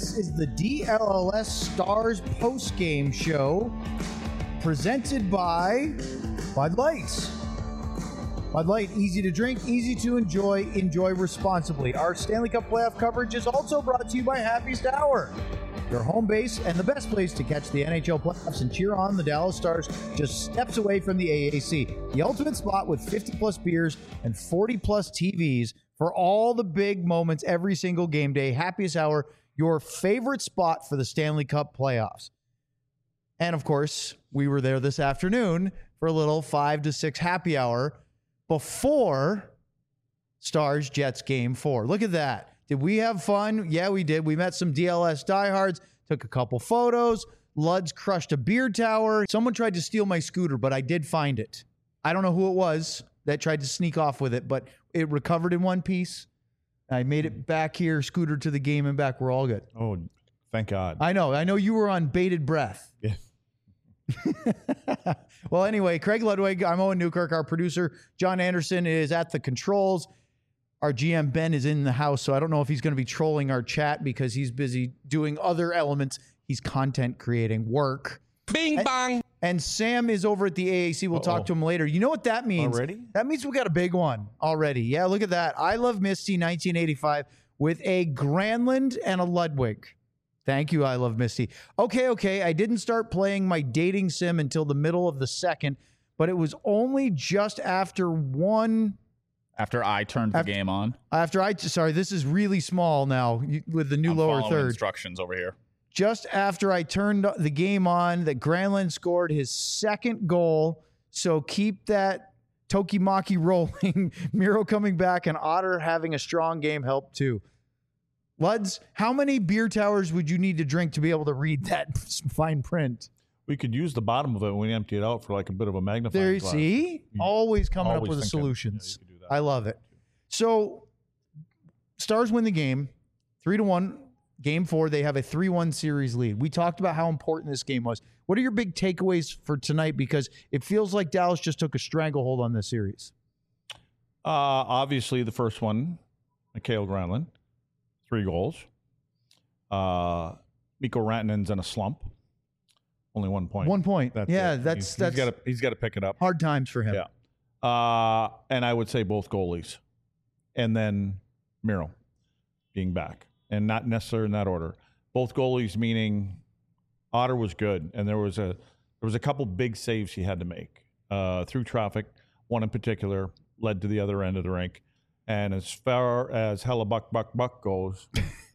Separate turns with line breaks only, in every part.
This is the DLLS Stars post-game show presented by Bud Light. Bud Light, easy to drink, easy to enjoy, enjoy responsibly. Our Stanley Cup playoff coverage is also brought to you by Happiest Hour, your home base and the best place to catch the NHL playoffs and cheer on the Dallas Stars just steps away from the AAC. The ultimate spot with 50-plus beers and 40-plus TVs for all the big moments every single game day. Happiest Hour, your favorite spot for the Stanley Cup playoffs. And, of course, we were there this afternoon for a little 5 to 6 happy hour before Stars-Jets Game 4. Look at that. Did we have fun? Yeah, we did. We met some DLS diehards, took a couple photos. Luds crushed a beer tower. Someone tried to steal my scooter, but I did find it. I don't know who it was that tried to sneak off with it, but it recovered in one piece. I made it back here, scooter to the game and back. We're all good.
Oh, thank God.
I know you were on bated breath.
Yeah.
Well, anyway, Craig Ludwig, I'm Owen Newkirk. Our producer, John Anderson, is at the controls. Our GM, Ben, is in the house, so I don't know if he's going to be trolling our chat because he's busy doing other elements. He's content creating work.
Bing bang.
And Sam is over at the AAC. We'll talk to him later. You know what that means?
Already?
That means we got a big one already. Yeah, look at that. I Love Misty 1985 with a Granlund and a Ludwig. Thank you, I Love Misty. Okay. I didn't start playing my dating sim until the middle of the second, but it was only just after one...
After I turned the game on.
Sorry, this is really small now with the new
I'm
lower
following
third.
Instructions over here.
Just after I turned the game on, that Granlund scored his second goal. So keep that Tokimaki rolling. Miro coming back and Otter having a strong game helped too. Luds, how many beer towers would you need to drink to be able to read that fine print?
We could use the bottom of it when we empty it out for like a bit of a magnifying
There,
glass.
see? Always coming up
Always
with the
thinking.
solutions.
Yeah, you could do that.
I love it. So, Stars win the game, 3-1. Game 4, they have a 3-1 series lead. We talked about how important this game was. What are your big takeaways for tonight? Because it feels like Dallas just took a stranglehold on this series.
Obviously, the first one, Mikael Granlund, 3 goals. Mikko Rantanen's in a slump. Only 1 point.
1 point.
That's
yeah,
it.
that's
he's got to pick it up.
hard times for him.
Yeah. And I would say both goalies, and then Miro being back, and not necessarily in that order. Both goalies, meaning Otter was good, and there was a couple big saves he had to make through traffic. One in particular led to the other end of the rink, and as far as Hellebuck Buck goes,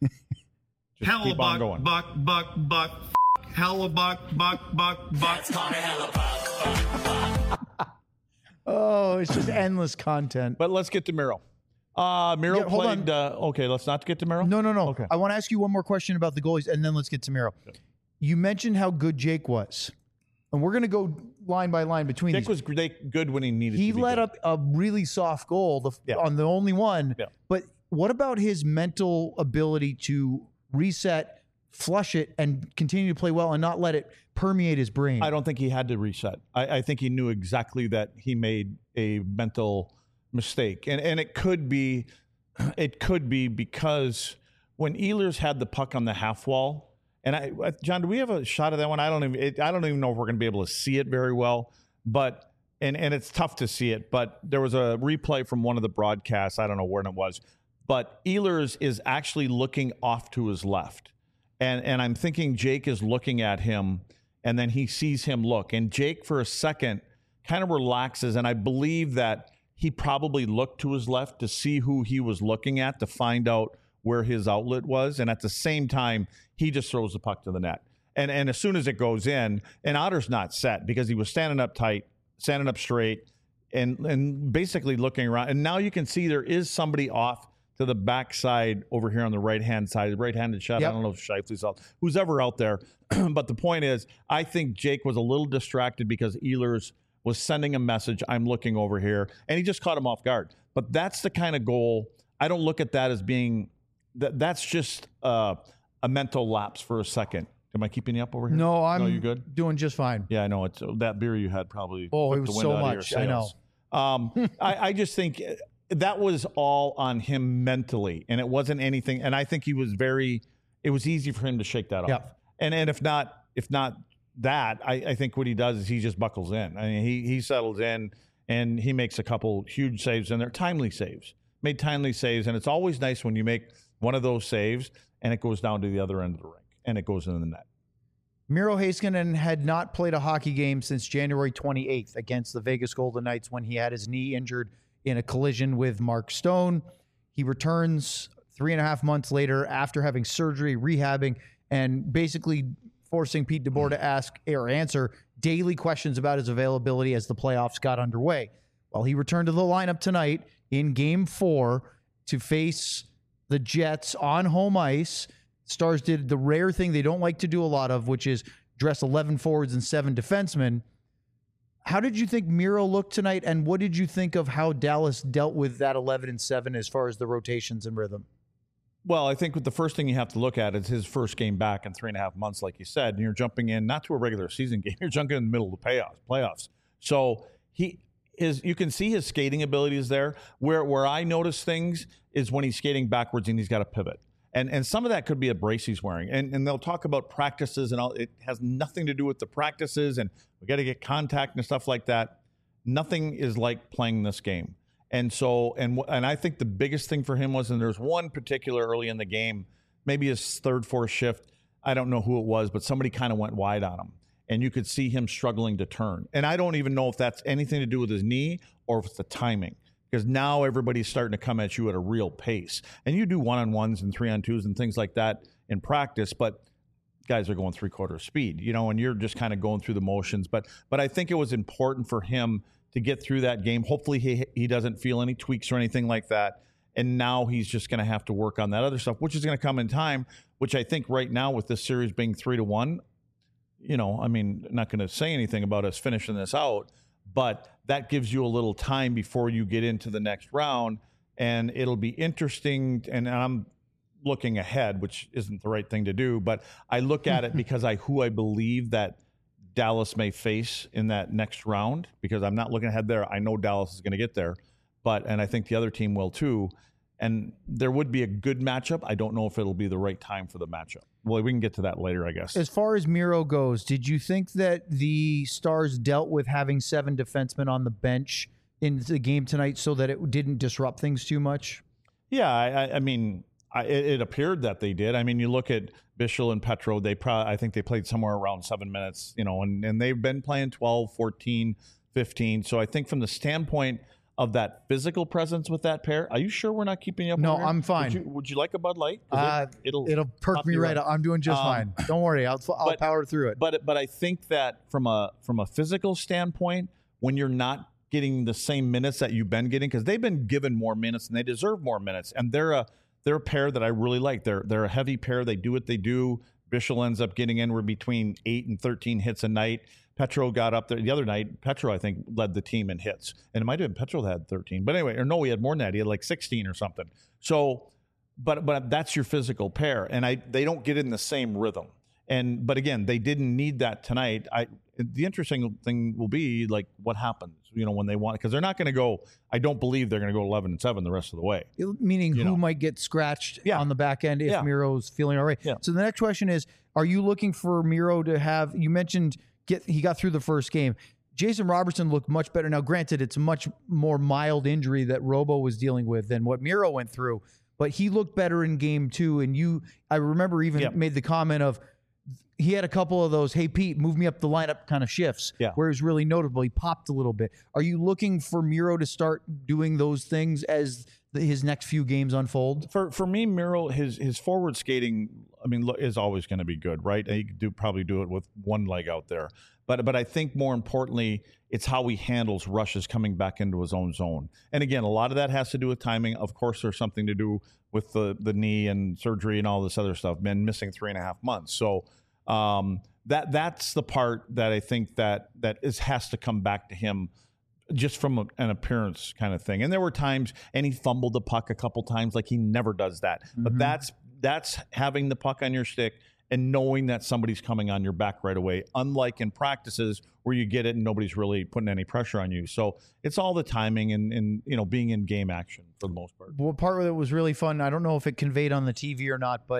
just keep on going.
Buck. Hellebuck, buck. That's Connor Hellebuck.
Oh, it's just endless content.
But let's get to Miro. Miro
hold
played. Okay, let's not get to Miro.
No.
Okay.
I want to ask you one more question about the goalies, and then let's get to Miro. You mentioned how good Jake was, and we're going to go line by line between
Jake
these.
was good when he needed.
He
to be
let
good.
up a really soft goal on the only one.
Yeah.
But what about his mental ability to reset, flush it, and continue to play well and not let it permeate his brain?
I don't think he had to reset. I think he knew exactly that he made a mental mistake, and it could be because when Ehlers had the puck on the half wall, and John, do we have a shot of that one? I don't even know if we're going to be able to see it very well, but and it's tough to see it. But there was a replay from one of the broadcasts. I don't know where it was, but Ehlers is actually looking off to his left. And I'm thinking Jake is looking at him, and then he sees him look. And Jake, for a second, kind of relaxes. And I believe that he probably looked to his left to see who he was looking at to find out where his outlet was. And at the same time, he just throws the puck to the net. And as soon as it goes in, and Otter's not set because he was standing up tight, standing up straight, and basically looking around. And now you can see there is somebody off to the backside over here on the right-hand side, the right-handed shot.
Yep.
I don't know if Scheifele's out, who's ever out there. But the point is, I think Jake was a little distracted because Ehlers was sending a message, I'm looking over here, and he just caught him off guard. But that's the kind of goal, I don't look at that as being, that's just a mental lapse for a second. Am I keeping you up over here?
No,
you good?
doing just fine.
Yeah, I know. It's that beer you had probably.
Oh, it
took the
was
wind
so
out of your
much. I know.
sails. I just think that was all on him mentally, and it wasn't anything. And I think he was very it was easy for him to shake that off. And if not that, I think what he does is he just buckles in. I mean, he settles in and he makes a couple huge saves, and they're timely saves. Made timely saves, and it's always nice when you make one of those saves and it goes down to the other end of the rink and it goes in the net.
Miro Heiskanen had not played a hockey game since January 28th against the Vegas Golden Knights when he had his knee injured in a collision with Mark Stone. He returns 3.5 months later after having surgery, rehabbing, and basically forcing Pete DeBoer to ask or answer daily questions about his availability as the playoffs got underway. Well, he returned to the lineup tonight in Game 4 to face the Jets on home ice. Stars did the rare thing they don't like to do a lot of, which is dress 11 forwards and 7 defensemen. How did you think Miro looked tonight, and what did you think of how Dallas dealt with that 11 and 7 as far as the rotations and rhythm?
Well, I think the first thing you have to look at is his first game back in 3.5 months, like you said, and you're jumping in not to a regular season game, you're jumping in the middle of the playoffs. So you can see his skating abilities there. Where I notice things is when he's skating backwards and he's got to pivot. And some of that could be a brace he's wearing. And they'll talk about practices and all. It has nothing to do with the practices, and we got to get contact and stuff like that. Nothing is like playing this game. And so, and I think the biggest thing for him was, and there's one particular early in the game, maybe his third, fourth shift, I don't know who it was, but somebody kind of went wide on him. And you could see him struggling to turn. And I don't even know if that's anything to do with his knee or if it's the timing. Because now everybody's starting to come at you at a real pace. And you do one-on-ones and 3-on-2s and things like that in practice, but guys are going 3/4 speed, and you're just kind of going through the motions. But I think it was important for him to get through that game. Hopefully he doesn't feel any tweaks or anything like that. And now he's just going to have to work on that other stuff, which is going to come in time, which I think right now with this series being 3-1, I mean, not going to say anything about us finishing this out, but that gives you a little time before you get into the next round, and it'll be interesting. And I'm looking ahead, which isn't the right thing to do, but I look at it because who I believe that Dallas may face in that next round, because I'm not looking ahead there. I know Dallas is going to get there, and I think the other team will too. And there would be a good matchup. I don't know if it'll be the right time for the matchup. Well, we can get to that later, I guess.
As far as Miro goes, did you think that the Stars dealt with having 7 defensemen on the bench in the game tonight so that it didn't disrupt things too much?
Yeah, I mean, it appeared that they did. I mean, you look at Bichsel and Petro, I think they played somewhere around 7 minutes, and they've been playing 12, 14, 15. So I think from the standpoint of that physical presence with that pair, are you sure we're not keeping you up?
No,
on here?
I'm fine.
Would you like a Bud Light?
It'll perk me right up. I'm doing just fine. Don't worry, I'll power through it.
But I think that from a physical standpoint, when you're not getting the same minutes that you've been getting, because they've been given more minutes and they deserve more minutes, and they're a pair that I really like. They're a heavy pair. They do what they do. Bichsel ends up getting anywhere between 8 and 13 hits a night. Petro got up there the other night. Petro, I think, led the team in hits. And it might have been Petro that had 13. But anyway, he had more than that. He had like 16 or something. So, but that's your physical pair. And they don't get in the same rhythm. But again, they didn't need that tonight. The interesting thing will be like what happens, when they want, because they're not going to go. I don't believe they're going to go 11 and 7 the rest of the way.
Meaning who might get scratched on the back end if Miro's feeling all right. Yeah. So the next question is: are you looking for Miro to have? You mentioned he got through the first game. Jason Robertson looked much better. Now, granted, it's a much more mild injury that Robo was dealing with than what Miro went through, but he looked better in game 2. And I remember even made the comment of. He had a couple of those, hey, Pete, move me up the lineup kind of shifts where it was really notable. He popped a little bit. Are you looking for Miro to start doing those things as his next few games unfold?
For me, Miro, his forward skating, is always going to be good, right? He could probably do it with one leg out there. But I think more importantly, it's how he handles rushes coming back into his own zone. And again, a lot of that has to do with timing. Of course, there's something to do with the knee and surgery and all this other stuff. Been missing 3.5 months. So that's the part that I think that has to come back to him just from an appearance kind of thing. And there were times, and he fumbled the puck a couple times, like he never does that. Mm-hmm. But that's having the puck on your stick and knowing that somebody's coming on your back right away, unlike in practices where you get it and nobody's really putting any pressure on you. So it's all the timing and being in game action for the most part.
Well, part of it was really fun. I don't know if it conveyed on the TV or not, but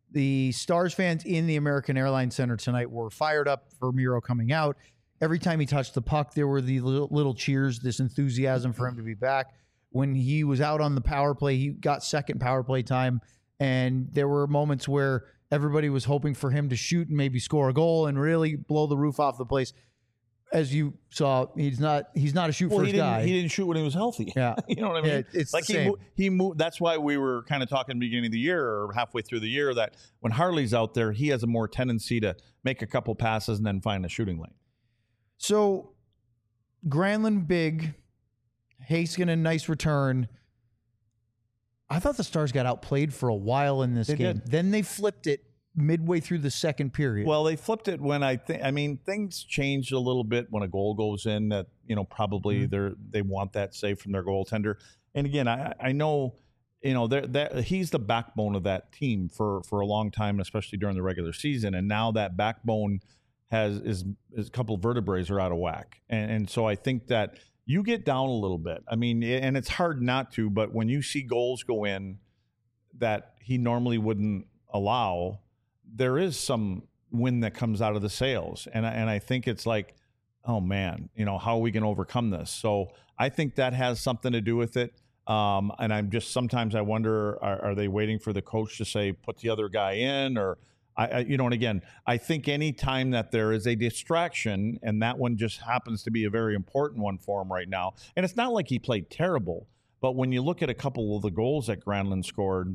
The Stars fans in the American Airlines Center tonight were fired up for Miro coming out. Every time he touched the puck, there were the little cheers, this enthusiasm for him to be back. When he was out on the power play, he got second power play time, and there were moments where everybody was hoping for him to shoot and maybe score a goal and really blow the roof off the place. As you saw, he's not a shoot first guy.
He didn't shoot when he was healthy.
Yeah,
you know what I mean.
Yeah, it's
like
the same.
he moved. That's why we were kind of talking at the beginning of the year or halfway through the year that when Harley's out there, he has a more tendency to make a couple passes and then find a shooting lane.
So, Granlund big, Heiskanen nice return. I thought the Stars got outplayed for a while in this game.
Did.
Then they flipped it midway through the second period.
Well, they flipped it when things changed a little bit when a goal goes in that, probably they want that save from their goaltender. And again, I know, he's the backbone of that team for a long time, especially during the regular season. And now that backbone is a couple of vertebrae are out of whack. And so I think that you get down a little bit. I mean, and it's hard not to, but when you see goals go in that he normally wouldn't allow, there is some wind that comes out of the sails. And I think it's like, oh man, how are we going to overcome this? So I think that has something to do with it. And sometimes I wonder, are they waiting for the coach to say, put the other guy in, or and again, I think any time that there is a distraction, and that one just happens to be a very important one for him right now. And it's not like he played terrible, but when you look at a couple of the goals that Granlund scored,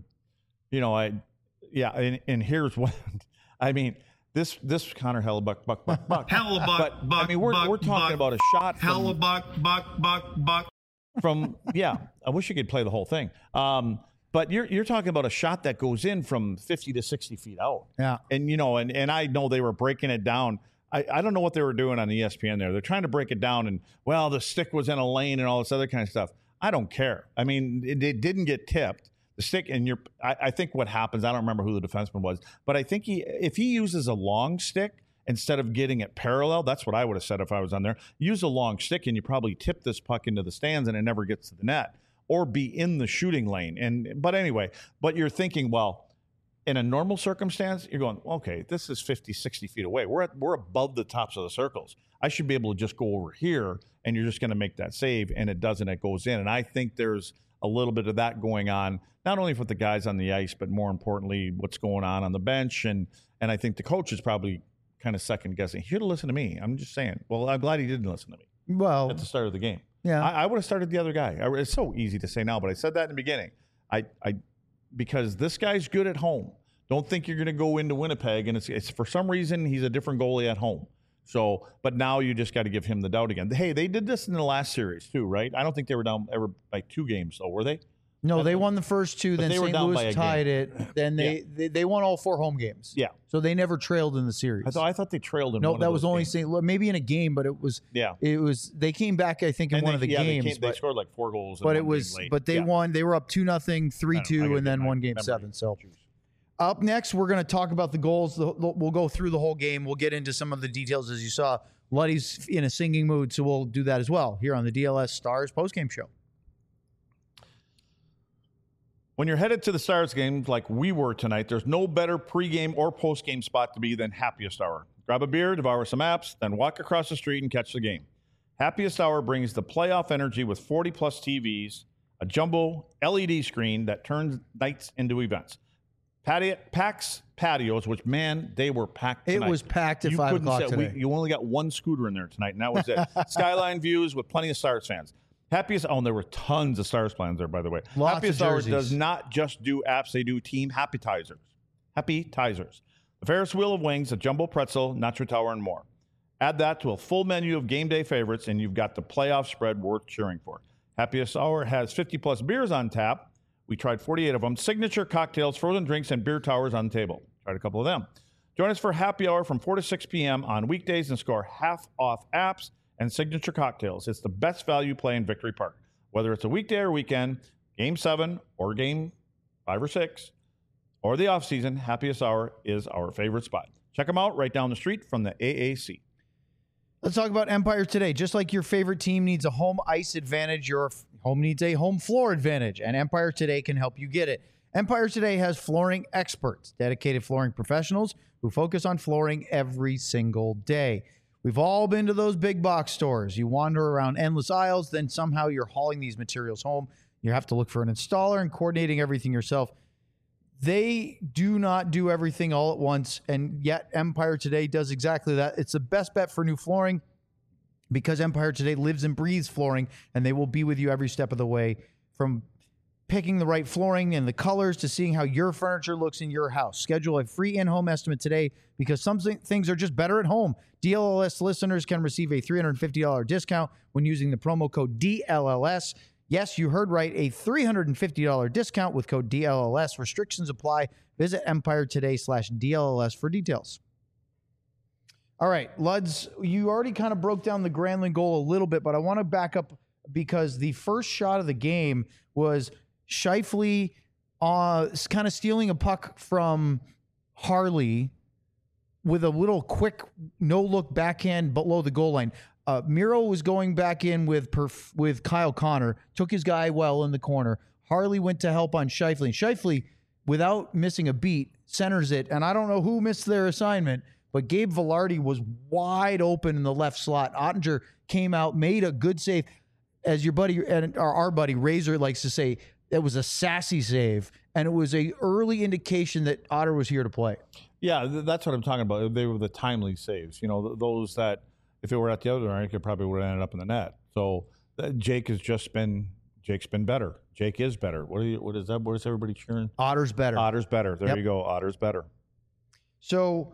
and here's what I mean. This Connor Hellebuck, buck.
Hellebuck, buck.
I mean, we're talking about a shot.
Hellebuck, buck.
From I wish you could play the whole thing. But you're talking about a shot that goes in from 50 to 60 feet out.
Yeah.
And and I know they were breaking it down. I don't know what they were doing on ESPN there. They're trying to break it down, and the stick was in a lane and all this other kind of stuff. I don't care. I mean, it didn't get tipped. The stick, and I think what happens, I don't remember who the defenseman was, but I think if he uses a long stick instead of getting it parallel, that's what I would have said if I was on there. Use a long stick, and you probably tip this puck into the stands, and it never gets to the net, or be in the shooting lane. But you're thinking, well, in a normal circumstance, you're going, okay, this is 50, 60 feet away. We're above the tops of the circles. I should be able to just go over here, and you're just going to make that save, and it doesn't. It goes in, and I think there's a little bit of that going on, not only with the guys on the ice, but more importantly, what's going on the bench. And I think the coach is probably kind of second guessing. He should have listened to me. I'm just saying. Well, I'm glad he didn't listen to me.
Well,
at the start of the game.
Yeah.
I would have started the other guy. It's so easy to say now, but I said that in the beginning. Because this guy's good at home. Don't think you're going to go into Winnipeg, and it's for some reason he's a different goalie at home. So, but now you just got to give him the doubt again. Hey, they did this in the last series too, right? I don't think they were down ever by 2 games, though, were they?
No, they won the first 2. Then St. Louis tied it. Then they won all 4 home games.
Yeah.
So they never trailed in the series.
I thought they trailed in.
No,
one
that
of
was
those
only
games.
St. Louis. Maybe in a game, but it was.
Yeah.
It was. They came back, I think, in one of the games.
They scored like 4 goals.
But it was. But they won. They were up 2-0, 3-2, and then won Game 7. So. Up next, we're going to talk about the goals. We'll go through the whole game. We'll get into some of the details, as you saw. Luddy's in a singing mood, so we'll do that as well here on the DLS Stars postgame show.
When you're headed to the Stars game like we were tonight, there's no better pregame or postgame spot to be than Happiest Hour. Grab a beer, devour some apps, then walk across the street and catch the game. Happiest Hour brings the playoff energy with 40-plus TVs, a jumbo LED screen that turns nights into events. Packs patios, which, man, they were packed tonight.
It was packed at 5 o'clock today.
You only got 1 scooter in there tonight, and that was it. Skyline views with plenty of Stars fans. There were tons of Stars plans there, by the way.
Lots
Happiest
of
Hour
jerseys.
does not just do apps, they do team Happytizers. Happytizers. The Ferris wheel of wings, a jumbo pretzel, nacho tower, and more. Add that to a full menu of game day favorites, and you've got the playoff spread worth cheering for. Happiest Hour has 50-plus beers on tap. We tried 48 of them. Signature cocktails, frozen drinks, and beer towers on the table. Tried a couple of them. Join us for Happy Hour from 4 to 6 p.m. on weekdays and score half off apps and signature cocktails. It's the best value play in Victory Park. Whether it's a weekday or weekend, Game 7 or Game 5 or 6, or the off-season, Happiest Hour is our favorite spot. Check them out right down the street from the AAC.
Let's talk about Empire today. Just like your favorite team needs a home ice advantage, your home needs a home floor advantage, and Empire Today can help you get it. Empire Today has flooring experts, dedicated flooring professionals who focus on flooring every single day. We've all been to those big box stores. You wander around endless aisles, then somehow you're hauling these materials home. You have to look for an installer and coordinating everything yourself. They do not do everything all at once, and yet Empire Today does exactly that. It's the best bet for new flooring because Empire Today lives and breathes flooring, and they will be with you every step of the way, from picking the right flooring and the colors to seeing how your furniture looks in your house. Schedule a free in-home estimate today because some things are just better at home. DLLS listeners can receive a $350 discount when using the promo code DLLS. Yes, you heard right, a $350 discount with code DLLS. Restrictions apply. Visit EmpireToday/DLLS for details. All right, Luds, you already kind of broke down the Granlund goal a little bit, but I want to back up because the first shot of the game was Scheifele kind of stealing a puck from Harley with a little quick no-look backhand below the goal line. Miro was going back in with Kyle Connor, took his guy well in the corner. Harley went to help on Scheifele. Scheifele, without missing a beat, centers it, and I don't know who missed their assignment, but Gabe Vilardi was wide open in the left slot. Ottinger came out, made a good save. As your buddy, and our buddy Razor likes to say, it was a sassy save, and it was a early indication that Otter was here to play.
Yeah, that's what I'm talking about. They were the timely saves. You know, those that if it were at the other end, it probably would have ended up in the net. So Jake's been better. Jake is better. What is that? What is everybody cheering?
Otter's better.
Otter's better. There
Yep.
you go. Otter's better.
So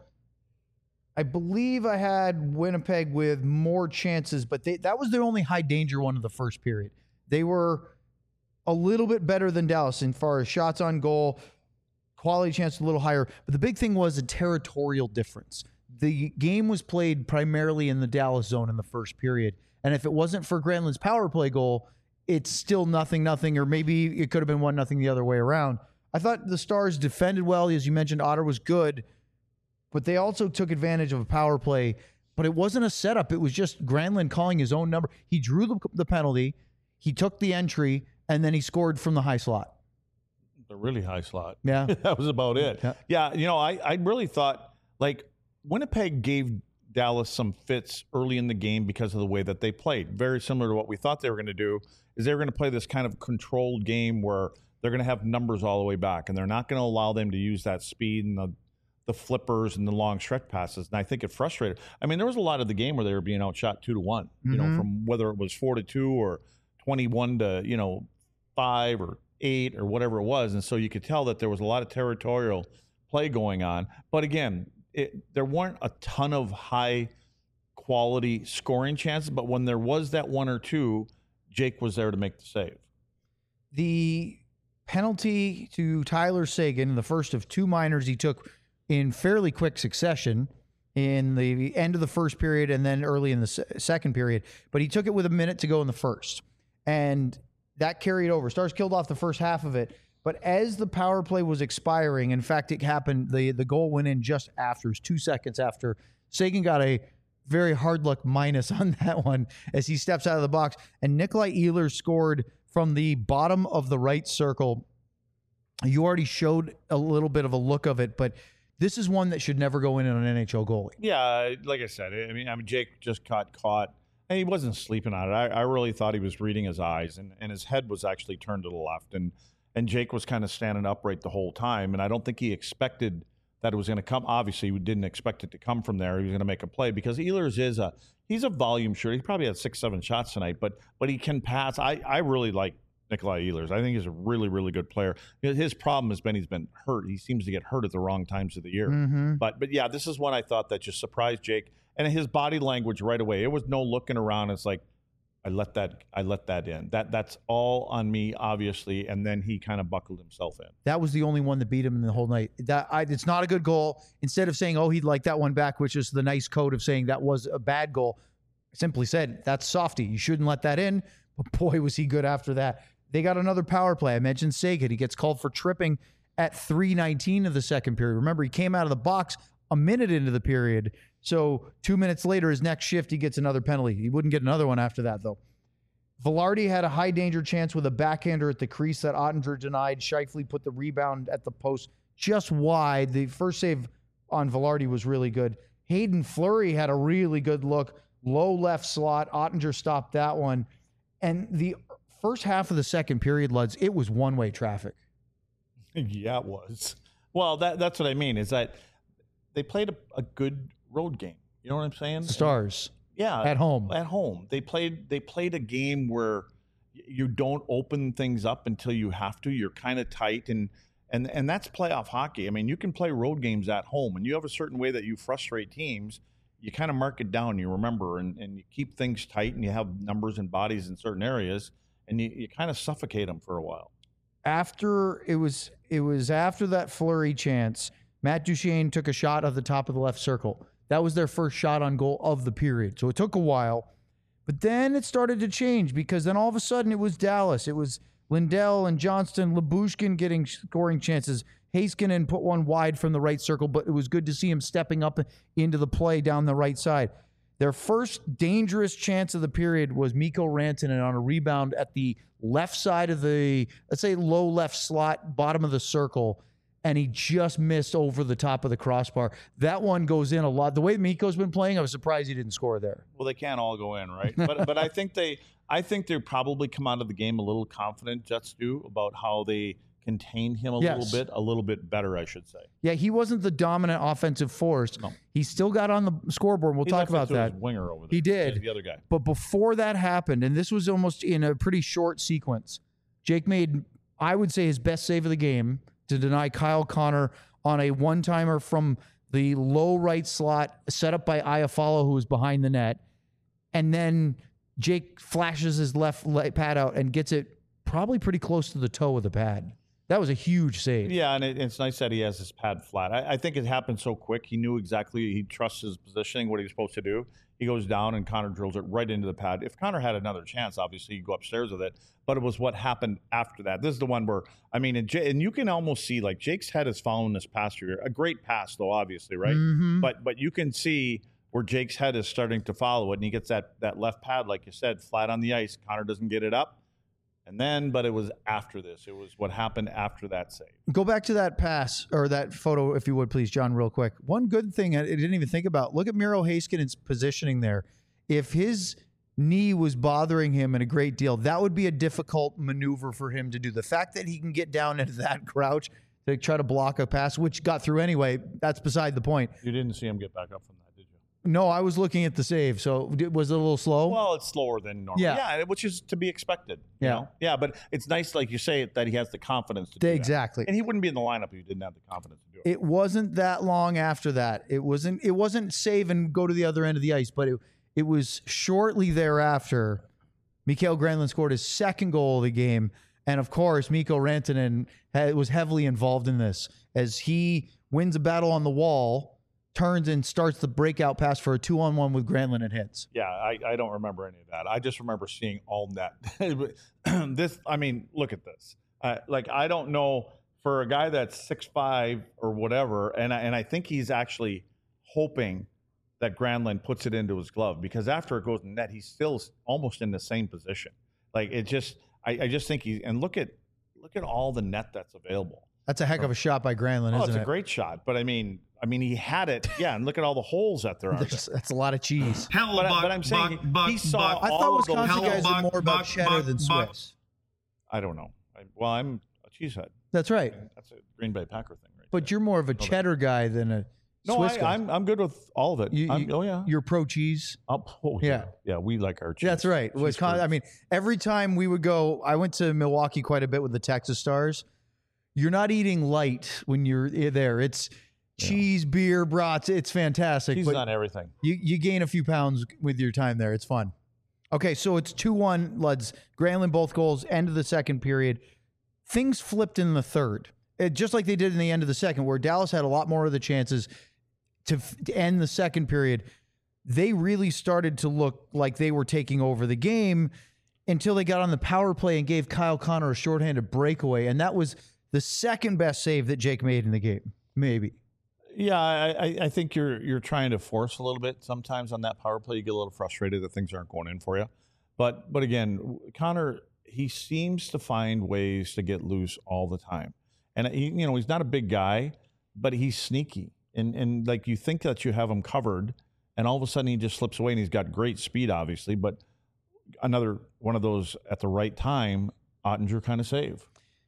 I believe I had Winnipeg with more chances, but that was their only high danger one of the first period. They were a little bit better than Dallas as far as shots on goal, quality chance a little higher. But the big thing was a territorial difference. The game was played primarily in the Dallas zone in the first period. And if it wasn't for Granlund's power play goal, it's still 0-0, or maybe it could have been 1-0 the other way around. I thought the Stars defended well. As you mentioned, Otter was good, but they also took advantage of a power play. But it wasn't a setup. It was just Granlund calling his own number. He drew the penalty, he took the entry, and then he scored from the high slot.
The really high slot.
Yeah.
That was about it. Yeah, you know, I really thought, like, Winnipeg gave Dallas some fits early in the game because of the way that they played. Very similar to what we thought they were going to do, is they were going to play this kind of controlled game where they're going to have numbers all the way back, and they're not going to allow them to use that speed and the flippers and the long stretch passes. And I think it frustrated. I mean, there was a lot of the game where they were being outshot 2-1, you know, from whether it was 4-2 or 21 to, 5 or 8 or whatever it was. And so you could tell that there was a lot of territorial play going on. But again, there weren't a ton of high quality scoring chances, but when there was that one or two, Jake was there to make the save.
The penalty to Tyler Seguin, the first of two minors he took in fairly quick succession in the end of the first period and then early in the second period, but he took it with a minute to go in the first. And that carried over. Stars killed off the first half of it. But as the power play was expiring, in fact, it happened, the goal went in just after. It was 2 seconds after. Seguin got a very hard luck minus on that one as he steps out of the box. And Nikolai Ehlers scored from the bottom of the right circle. You already showed a little bit of a look of it, but this is one that should never go in on an NHL goalie.
Yeah, like I said, I mean, Jake just got caught. And he wasn't sleeping on it. I really thought he was reading his eyes, and his head was actually turned to the left. And Jake was kind of standing upright the whole time. And I don't think he expected that it was going to come. Obviously, we didn't expect it to come from there. He was going to make a play because Ehlers he's a volume shooter. He probably had 6-7 shots tonight, but he can pass. I really like Nikolai Ehlers. I think he's a really, really good player. His problem has been he's been hurt. He seems to get hurt at the wrong times of the year. But yeah, this is one I thought that just surprised Jake. And his body language right away, it was no looking around. It's like, I let that in. That's all on me, obviously. And then he kind of buckled himself in.
That was the only one that beat him in the whole night. It's not a good goal. Instead of saying, oh, he'd like that one back, which is the nice code of saying that was a bad goal, I simply said, that's softy. You shouldn't let that in. But boy, was he good after that. They got another power play. I mentioned Seguin. He gets called for tripping at 3:19 of the second period. Remember, he came out of the box a minute into the period. So 2 minutes later, his next shift, he gets another penalty. He wouldn't get another one after that, though. Velarde had a high danger chance with a backhander at the crease that Ottinger denied. Scheifele put the rebound at the post just wide. The first save on Velarde was really good. Hayden Fleury had a really good look. Low left slot. Ottinger stopped that one. And the first half of the second period, Luds, it was one-way traffic.
Yeah, it was. Well, that's what I mean, is that they played a good road game. You know what I'm saying?
Stars.
Yeah,
at home.
At home, they played a game where you don't open things up until you have to. You're kind of tight, and that's playoff hockey. I mean, you can play road games at home, and you have a certain way that you frustrate teams. You kind of mark it down. You remember, and you keep things tight, and you have numbers and bodies in certain areas, and you kind of suffocate them for a while.
After it was after that Fleury chance, Matt Duchene took a shot at the top of the left circle. That was their first shot on goal of the period. So it took a while. But then it started to change because then all of a sudden it was Dallas. It was Lindell and Johnston, Lyubushkin getting scoring chances. Heiskanen put one wide from the right circle, but it was good to see him stepping up into the play down the right side. Their first dangerous chance of the period was Mikko Rantanen on a rebound at the left side of the, let's say, low left slot, bottom of the circle, and he just missed over the top of the crossbar. That one goes in a lot. The way Mikko's been playing, I was surprised he didn't score there.
Well, they can't all go in, right? But I think they probably come out of the game a little confident, Jets do, about how they contained him a little bit better, I should say.
Yeah, he wasn't the dominant offensive force.
No.
He still got on the scoreboard. We'll talk about that.
His winger over there.
He did.
The other guy.
But before that happened, and this was almost in a pretty short sequence, Jake made, I would say, his best save of the game to deny Kyle Connor on a one-timer from the low right slot set up by Iafallo, who was behind the net. And then Jake flashes his left pad out and gets it probably pretty close to the toe of the pad. That was a huge save.
Yeah, and it's nice that he has his pad flat. I think it happened so quick. He knew exactly, he trusts his positioning, what he was supposed to do. He goes down, and Connor drills it right into the pad. If Connor had another chance, obviously he'd go upstairs with it. But it was what happened after that. This is the one where, I mean, and you can almost see, like, Jake's head is following this pass here. A great pass, though, obviously, right?
Mm-hmm.
But you can see where Jake's head is starting to follow it, and he gets that left pad, like you said, flat on the ice. Connor doesn't get it up. And then, but it was after this. It was what happened after that save.
Go back to that pass, or that photo, if you would, please, John, real quick. One good thing I didn't even think about. Look at Miro Heiskanen's positioning there. If his knee was bothering him in a great deal, that would be a difficult maneuver for him to do. The fact that he can get down into that crouch to try to block a pass, which got through anyway, that's beside the point.
You didn't see him get back up from that, did you?
No, I was looking at the save. So was it a little slow?
Well, it's slower than normal. Yeah, which is to be expected. You know? Yeah, but it's nice, like you say, that he has the confidence to do that.
Exactly.
And he wouldn't be in the lineup if he didn't have the confidence to do it.
It wasn't that long after that. It wasn't save and go to the other end of the ice, but it was shortly thereafter. Mikael Granlund scored his second goal of the game. And of course, Mikko Rantanen was heavily involved in this as he wins a battle on the wall, turns and starts the breakout pass for a 2-on-1 with Granlund and hits.
Yeah, I don't remember any of that. I just remember seeing all that. I mean, look at this. I don't know, for a guy that's 6'5" or whatever, and I think he's actually hoping that Granlund puts it into his glove, because after it goes in net, he's still almost in the same position. Like, it just, I just think and look at all the net that's available.
That's a heck of a shot by Granlund, isn't it?
It's a great shot, but I mean, he had it. Yeah, and look at all the holes that there are.
That's a lot of cheese.
But I'm saying he saw
I thought Wisconsin guys are more about cheddar than Swiss.
I don't know. I'm a cheesehead.
That's right.
That's a Green Bay Packer thing, right?
But you're more of a cheddar guy than a Swiss guy.
I'm good with all of it.
You're pro cheese.
Yeah, we like our cheese.
That's right. Wisconsin. I mean, every time we would go, I went to Milwaukee quite a bit with the Texas Stars. You're not eating light when you're there. It's cheese, beer, brats. It's fantastic.
Cheese on everything.
You gain a few pounds with your time there. It's fun. Okay, so it's 2-1, Luds. Granlund both goals, end of the second period. Things flipped in the third, just like they did in the end of the second, where Dallas had a lot more of the chances to end the second period. They really started to look like they were taking over the game until they got on the power play and gave Kyle Connor a shorthanded breakaway, and that was the second best save that Jake made in the game, maybe.
Yeah, I think you're trying to force a little bit sometimes on that power play. You get a little frustrated that things aren't going in for you. But again, Connor, he seems to find ways to get loose all the time. And he's not a big guy, but he's sneaky. And like you think that you have him covered, and all of a sudden he just slips away, and he's got great speed, obviously. But another one of those at the right time, Ottinger kind of save.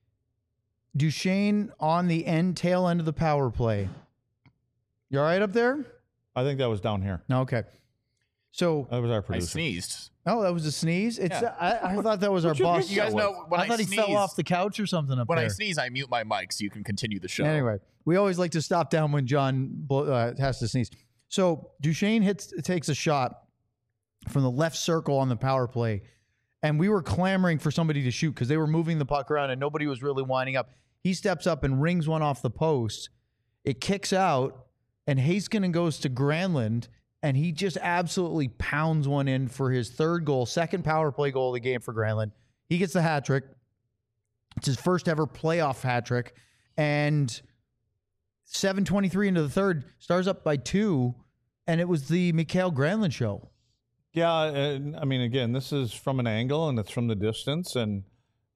Duchesne on the tail end of the power play. You all right up there?
I think that was down here.
Okay. So
that was our
I
producer.
sneezed.
Oh, that was a sneeze? I thought that was our boss.
You guys know when
I thought he
sneeze,
fell off the couch or something up
when
there.
I sneeze, I mute my mic so you can continue the show.
Anyway, we always like to stop down when John has to sneeze. So Duchesne takes a shot from the left circle on the power play, and we were clamoring for somebody to shoot because they were moving the puck around and nobody was really winding up. He steps up and rings one off the post. It kicks out, and Heiskanen goes to Granlund, and he just absolutely pounds one in for his third goal, second power play goal of the game for Granlund. He gets the hat trick. It's his first ever playoff hat trick. And 7:23 into the third, Stars up by 2, and it was the Mikael Granlund show.
Yeah, I mean, again, this is from an angle, and it's from the distance. And,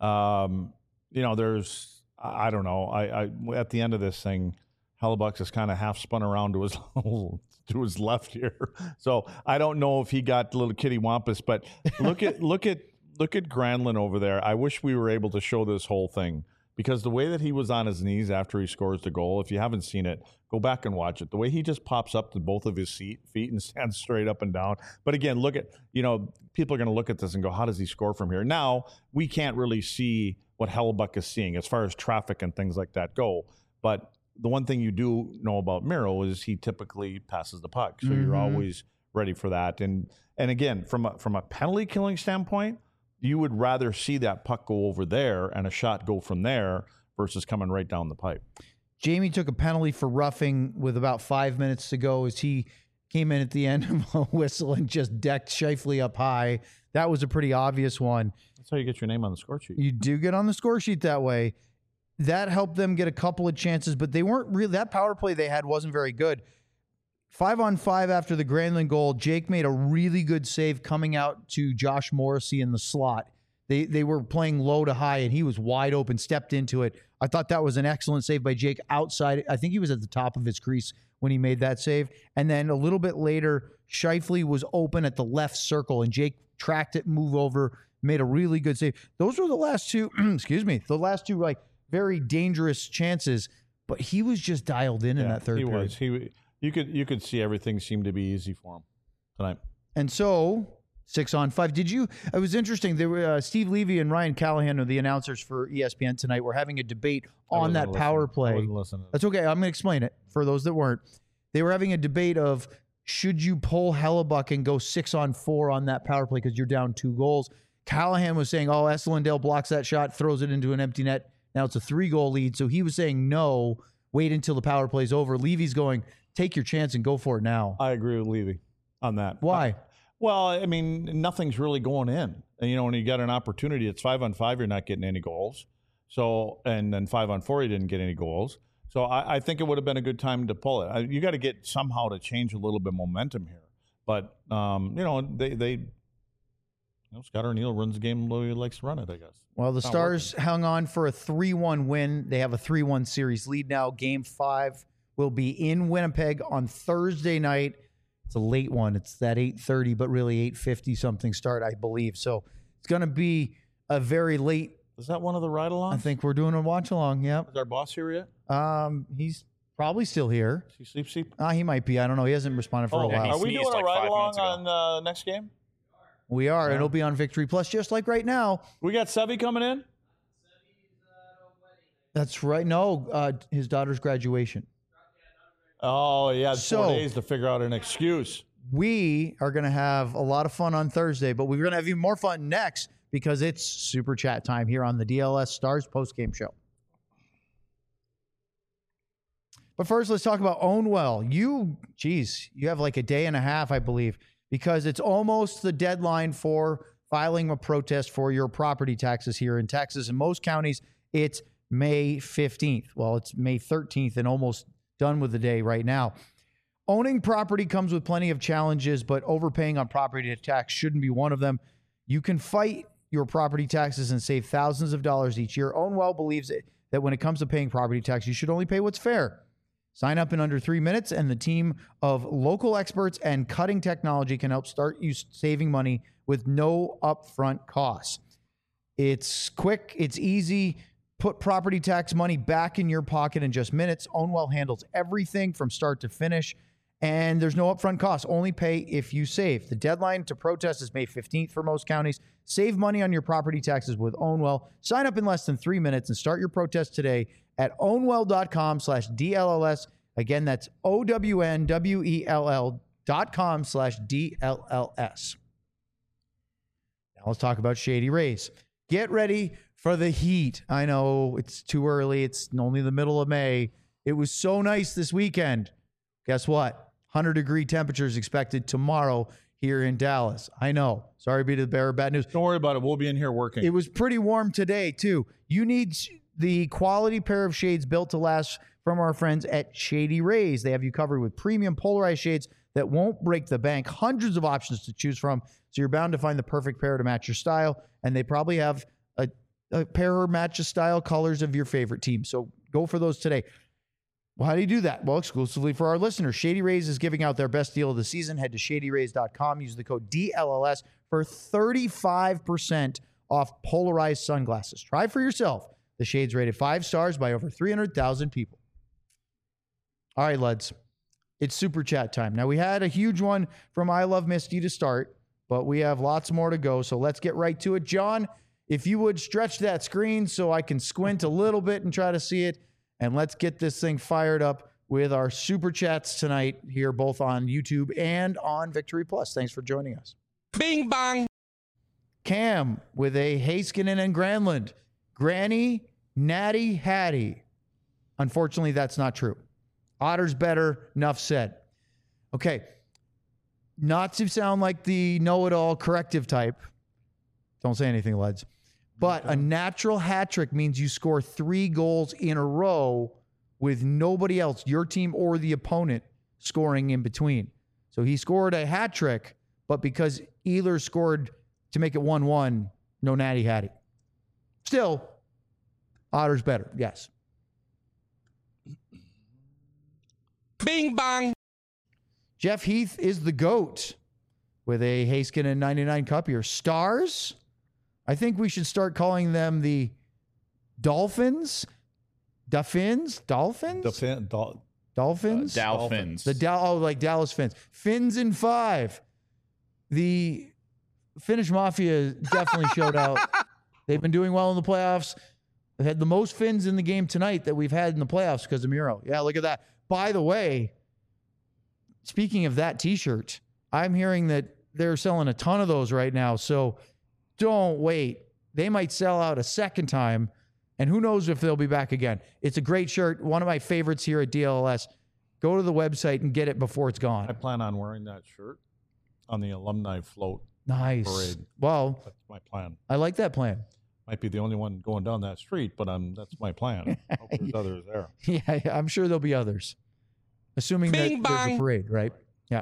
there's, I don't know, I at the end of this thing, Hellebuck is kind of half spun around to his left here. So I don't know if he got a little kitty wampus, but look at Granlund over there. I wish we were able to show this whole thing, because the way that he was on his knees after he scores the goal, if you haven't seen it, go back and watch it. The way he just pops up to both of his feet and stands straight up and down. But again, look at, people are going to look at this and go, how does he score from here? Now, we can't really see what Hellebuck is seeing as far as traffic and things like that go. But the one thing you do know about Miro is he typically passes the puck. So you're always ready for that. And again, from a penalty killing standpoint, you would rather see that puck go over there and a shot go from there versus coming right down the pipe.
Jamie took a penalty for roughing with about 5 minutes to go as he came in at the end of a whistle and just decked Scheifele up high. That was a pretty obvious one.
That's how you get your name on the score sheet.
You do get on the score sheet that way. That helped them get a couple of chances, but they weren't really, that power play they had wasn't very good. 5-on-5 after the Granlund goal, Jake made a really good save coming out to Josh Morrissey in the slot. They were playing low to high, and he was wide open, stepped into it. I thought that was an excellent save by Jake outside. I think he was at the top of his crease when he made that save. And then a little bit later, Scheifele was open at the left circle, and Jake tracked it, move over, made a really good save. Those were the last two, the last two like very dangerous chances, but he was just dialed in that third period.
You could see everything seemed to be easy for him tonight.
And so 6-on-5. It was interesting. There were Steve Levy and Ryan Callahan are the announcers for ESPN tonight. We're having a debate on that power play.
I wasn't listening.
That's okay. I'm going to explain it for those that weren't. They were having a debate of should you pull Hellebuck and go 6-on-4 on that power play because you're down 2 goals. Callahan was saying, Esselindale blocks that shot, throws it into an empty net. Now it's a 3-goal lead. So he was saying, no, wait until the power play's over. Levy's going, take your chance and go for it now.
I agree with Levy on that.
Why?
Well, I mean, nothing's really going in. And, when you get an opportunity, it's 5-on-5, you're not getting any goals. So, and then 5-on-4, you didn't get any goals. So I think it would have been a good time to pull it. You got to get somehow to change a little bit momentum here. But, Scott O'Neill runs the game the way he likes to run it, I guess.
Well, the Stars hung on for a 3-1 win. They have a 3-1 series lead now. Game 5 will be in Winnipeg on Thursday night. It's a late one. It's that 8:30, but really 8:50 something start, I believe. So it's going to be a very late.
Is that one of the ride-alongs?
I think we're doing a watch-along, yep.
Is our boss here yet?
He's probably still here.
Is he sleep?
He might be. I don't know. He hasn't responded for a while.
Are we doing a ride-along on next game?
We are. Yeah. It'll be on Victory Plus, just like right now.
We got Sevy coming in?
That's right. No, his daughter's graduation.
Oh, yeah, 4 days to figure out an excuse.
We are going to have a lot of fun on Thursday, but we're going to have even more fun next because it's Super Chat time here on the DLS Stars postgame show. But first, let's talk about Own Well. You have like a day and a half, I believe, because it's almost the deadline for filing a protest for your property taxes here in Texas. In most counties, it's May 15th. Well, it's May 13th and almost done with the day right now. Owning property comes with plenty of challenges, but overpaying on property tax shouldn't be one of them. You can fight your property taxes and save thousands of dollars each year. Ownwell believes that when it comes to paying property tax, you should only pay what's fair. Sign up in under 3 minutes, and the team of local experts and cutting technology can help start you saving money with no upfront costs. It's quick, it's easy. Put property tax money back in your pocket in just minutes. Ownwell handles everything from start to finish, and there's no upfront costs. Only pay if you save. The deadline to protest is May 15th for most counties. Save money on your property taxes with Ownwell. Sign up in less than 3 minutes and start your protest today at ownwell.com/DLLS. Again, that's OWNWELL.com/DLLS. Now let's talk about Shady Rays. Get ready for the heat. I know it's too early. It's only the middle of May. It was so nice this weekend. Guess what? 100-degree temperatures expected tomorrow here in Dallas. I know. Sorry to be the bearer of bad news.
Don't worry about it. We'll be in here working.
It was pretty warm today, too. You need the quality pair of shades built to last from our friends at Shady Rays. They have you covered with premium polarized shades that won't break the bank. Hundreds of options to choose from, so you're bound to find the perfect pair to match your style. And they probably have a pair or match of style colors of your favorite team. So go for those today. Well, how do you do that? Well, exclusively for our listeners. Shady Rays is giving out their best deal of the season. Head to shadyrays.com. Use the code DLLS for 35% off polarized sunglasses. Try for yourself. The shades rated 5 stars by over 300,000 people. All right, lads. It's super chat time. Now, we had a huge one from I Love Misty to start, but we have lots more to go. So let's get right to it. John, if you would stretch that screen so I can squint a little bit and try to see it. And let's get this thing fired up with our super chats tonight here, both on YouTube and on Victory Plus. Thanks for joining us.
Bing bong.
Cam with a Heiskanen and Granlund. Granny, Natty, Hattie. Unfortunately, that's not true. Otter's better. Enough said. Okay. Not to sound like the know-it-all corrective type. Don't say anything, lads. But a natural hat trick means you score 3 goals in a row with nobody else, your team or the opponent, scoring in between. So he scored a hat trick, but because Ehlers scored to make it 1-1, no Natty Hattie. Still, Otter's better, yes.
Bing bong.
Jeff Heath is the GOAT with a Heiskanen 99 Cup here. Stars? I think we should start calling them the Dolphins. Dolphins? Dolphins?
Dolphins.
Like Dallas Fins. Fins in 5. The Finnish Mafia definitely showed out. They've been doing well in the playoffs. They had the most Finns in the game tonight that we've had in the playoffs because of Miro. Yeah, look at that. By the way, speaking of that T-shirt, I'm hearing that they're selling a ton of those right now. So don't wait. They might sell out a second time, and who knows if they'll be back again. It's a great shirt. One of my favorites here at DLLS. Go to the website and get it before it's gone.
I plan on wearing that shirt on the alumni float.
Nice.
Parade.
Well,
that's my plan.
I like that plan.
Might be the only one going down that street, but that's my plan. I hope there's others there.
Yeah, I'm sure there'll be others. Assuming
Bing
that there's a parade, right? Yeah.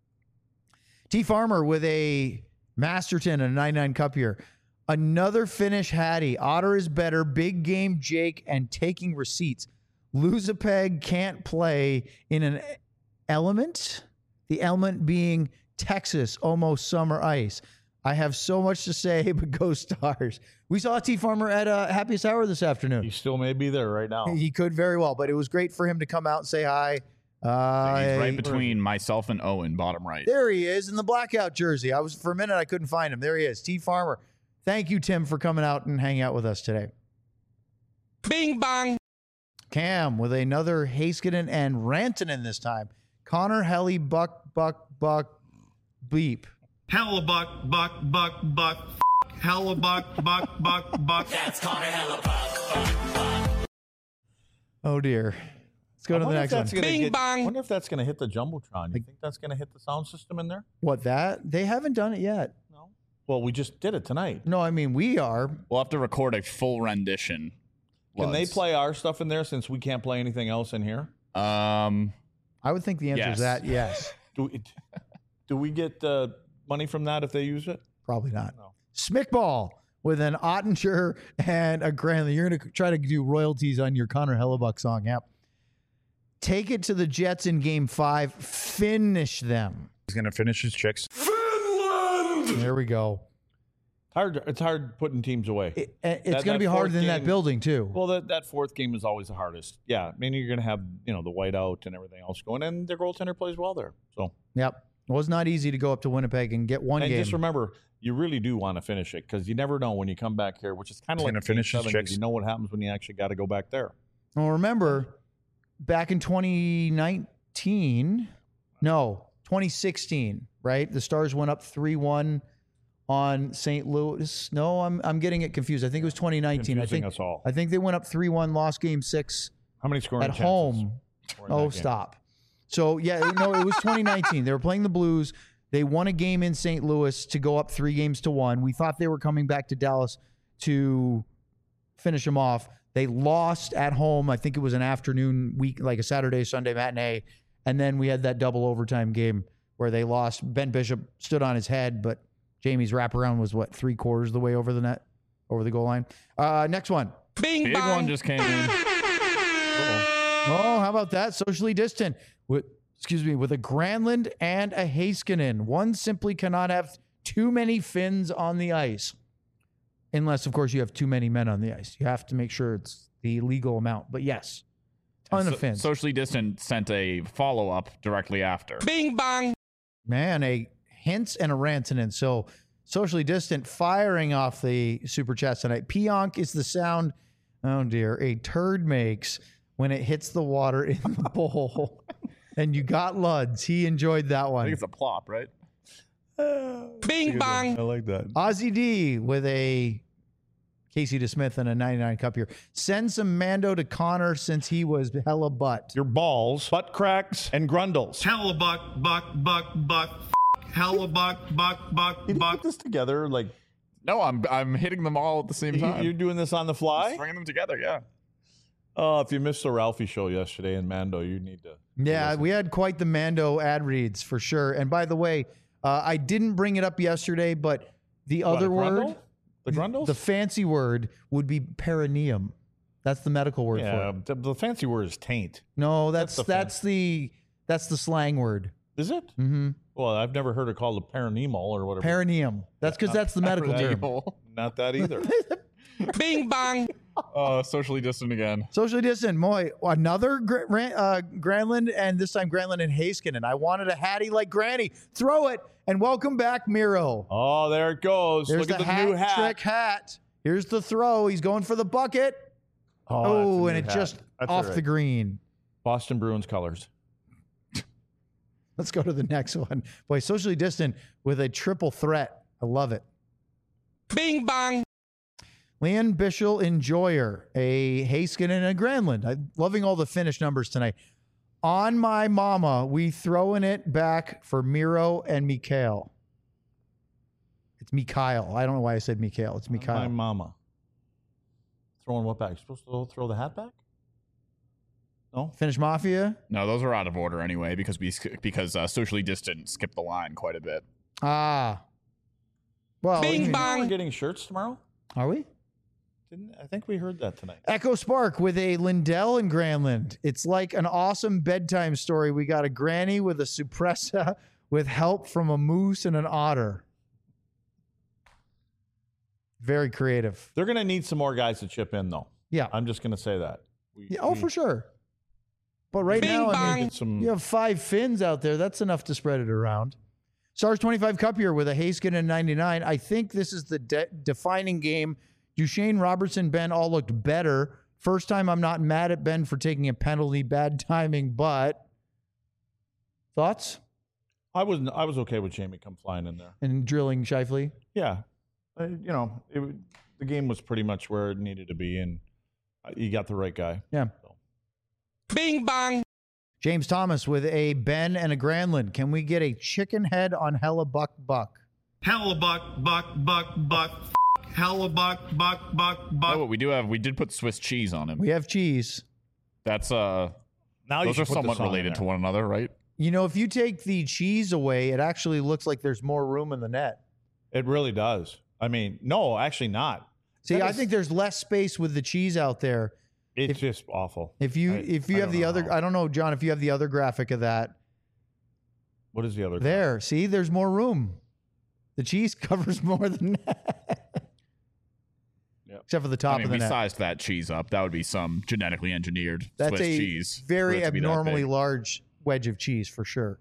T. Farmer with a Masterton and a 99 Cup here. Another Finnish Hattie. Otter is better. Big game Jake and taking receipts. Lose a peg, can't play in an element. The element being Texas, almost summer ice. I have so much to say, but go Stars. We saw T. Farmer at Happiest Hour this afternoon.
He still may be there right now.
He could very well, but it was great for him to come out and say hi.
He's right between myself and Owen, bottom right.
There he is in the blackout jersey. For a minute, I couldn't find him. There he is, T. Farmer. Thank you, Tim, for coming out and hanging out with us today.
Bing bong.
Cam with another Heiskanen and Rantanen this time. Connor, Helly, Buck, Beep.
Hellebuck, buck. Hellebuck, buck.
That's Connor Hellebuck.
Oh, dear. Let's go to the next one.
Bing bong.
I wonder if that's going to hit the Jumbotron. You think that's going to hit the sound system in there?
What, that? They haven't done it yet.
No. Well, we just did it tonight.
No, I mean, we are.
We'll have to record a full rendition.
Can they play our stuff in there since we can't play anything else in here?
I would think the answer is that, yes.
Do we get money from that if they use it?
Probably not.
No.
Smickball with an Ottinger and a Granlund. You're going to try to do royalties on your Connor Hellebuck song. Yep. Take it to the Jets in Game 5. Finish them.
He's going to finish his chicks.
There we go.
It's hard putting teams away.
It's going to be harder than that building, too.
Well, that fourth game is always the hardest. Yeah, I mean, you're going to have, the whiteout and everything else going, and their goaltender plays well there. So,
yep. It was not easy to go up to Winnipeg and get one game.
And just remember, you really do want to finish it because you never know when you come back here, which is kind of like
finish his chicks.
You know what happens when you actually got to go back there.
Well, remember, back in 2016, right? The Stars went up 3-1 on St. Louis. No, I'm getting it confused. I think it was 2019.
Confusing us all.
I think they went up 3-1, lost Game 6.
How many scoring
at
chances
home?
were in
Oh,
that game?
stop. So yeah, no, it was 2019. They were playing the Blues. They won a game in St. Louis to go up 3-1. We thought they were coming back to Dallas to finish them off. They lost at home. I think it was an afternoon week, like a Saturday, Sunday matinee. And then we had that double overtime game where they lost. Ben Bishop stood on his head, but Jamie's wraparound was, 3/4 of the way over the net, over the goal line. Next one.
Bing
Big
bang.
one just came in.
Oh, how about that? Socially distant with a Granlund and a Heiskanen. One simply cannot have too many Finns on the ice. Unless, of course, you have too many men on the ice. You have to make sure it's the legal amount. But yes, ton of Finns.
Socially distant sent a follow-up directly after.
Bing bang.
Man, a Hintz and a Rantanen. So socially distant firing off the super chat tonight. Pionk is the sound, oh dear, a turd makes when it hits the water in the bowl. And you got Luds. He enjoyed that
I
one.
think it's a plop, right?
Bing bang.
I like that.
Ozzy D with a Casey DeSmith and a 99 cup here. Send some Mando to Connor since he was hella butt.
Your balls, butt cracks, and grundles.
Hellebuck, buck, Hellebuck, buck.
Did you put this together? Like
No, I'm hitting them all at the same time.
you're doing this on the fly?
Stringing them together, yeah.
Oh, if you missed the Ralphie show yesterday in Mando, you need to.
Yeah, we had quite the Mando ad reads for sure. And by the way, I didn't bring it up yesterday, but the other word,
the grundles,
the fancy word would be perineum. That's the medical word for
yeah,
it.
the fancy word is taint.
No, that's
That's the
the slang word.
Is it?
Mm-hmm.
Well, I've never heard it called a perineal or whatever.
Perineum. That's because that's the medical term.
Not that either.
Bing bang.
Socially distant again.
Socially distant. Moy, another Granlund, and this time Granlund and Heiskanen. I wanted a hattie like Granny. Throw it, and welcome back, Miro.
Oh, there it goes.
There's
Look
the
at the new hat.
trick hat. Here's the throw. He's going for the bucket. Oh, and it just off the green.
Boston Bruins colors.
Let's go to the next one. Boy, socially distant with a triple threat. I love it.
Bing bang.
Leon Bischel Enjoyer, a Heiskanen and a Granlund. I'm loving all the Finnish numbers tonight. On my mama, we throwing it back for Miro and Mikhail. It's Mikhail. I don't know why I said Mikhail. It's Mikhail.
My mama. Throwing what back? You're supposed to throw the hat back? No?
Finnish Mafia.
No, those are out of order anyway because socially distant skipped the line quite a bit.
Ah. Well,
Bing bang.
We're getting shirts tomorrow?
Are we?
I think we heard that tonight.
Echo Spark with a Lindell and Granlund. It's like an awesome bedtime story. We got a granny with a suppressa with help from a moose and an otter. Very creative.
They're going to need some more guys to chip in, though.
Yeah.
I'm just going to say that.
For sure. But right
Bing
now, I
bang.
mean, you have 5 Finns out there. That's enough to spread it around. Stars 25 Cup here with a Heiskanen 99. I think this is the defining game. Duchesne, Robertson, Ben all looked better. First time I'm not mad at Ben for taking a penalty. Bad timing, but thoughts?
I was okay with Jamie come flying in there.
And drilling Scheifele?
Yeah. The game was pretty much where it needed to be, and you got the right guy.
Yeah.
Bing bang.
James Thomas with a Ben and a Granlund. Can we get a chicken head on Hellebuck Buck?
Hellebuck, buck. Hellebuck, buck.
Oh, we did put Swiss cheese on him.
We have cheese.
That's
Now you
those
should
are
put the
somewhat
song in
related
there.
to one another, right?
You know, if you take the cheese away, it actually looks like there's more room in the net.
It really does. I mean, no, actually not.
See,
That
I
is-
think there's less space with the cheese out there.
It's just awful.
If you
I
have
don't
the
know
other,
how.
I don't know, John, if you have the other graphic of that
What is the other?
there. See, there's more room. The cheese covers more than that.
Yep.
Except for the top
I mean,
of the
we
net.
sized that cheese up. That would be some genetically engineered
That's
Swiss
a
cheese. for
very
it to be that
abnormally
big.
large wedge of cheese for sure.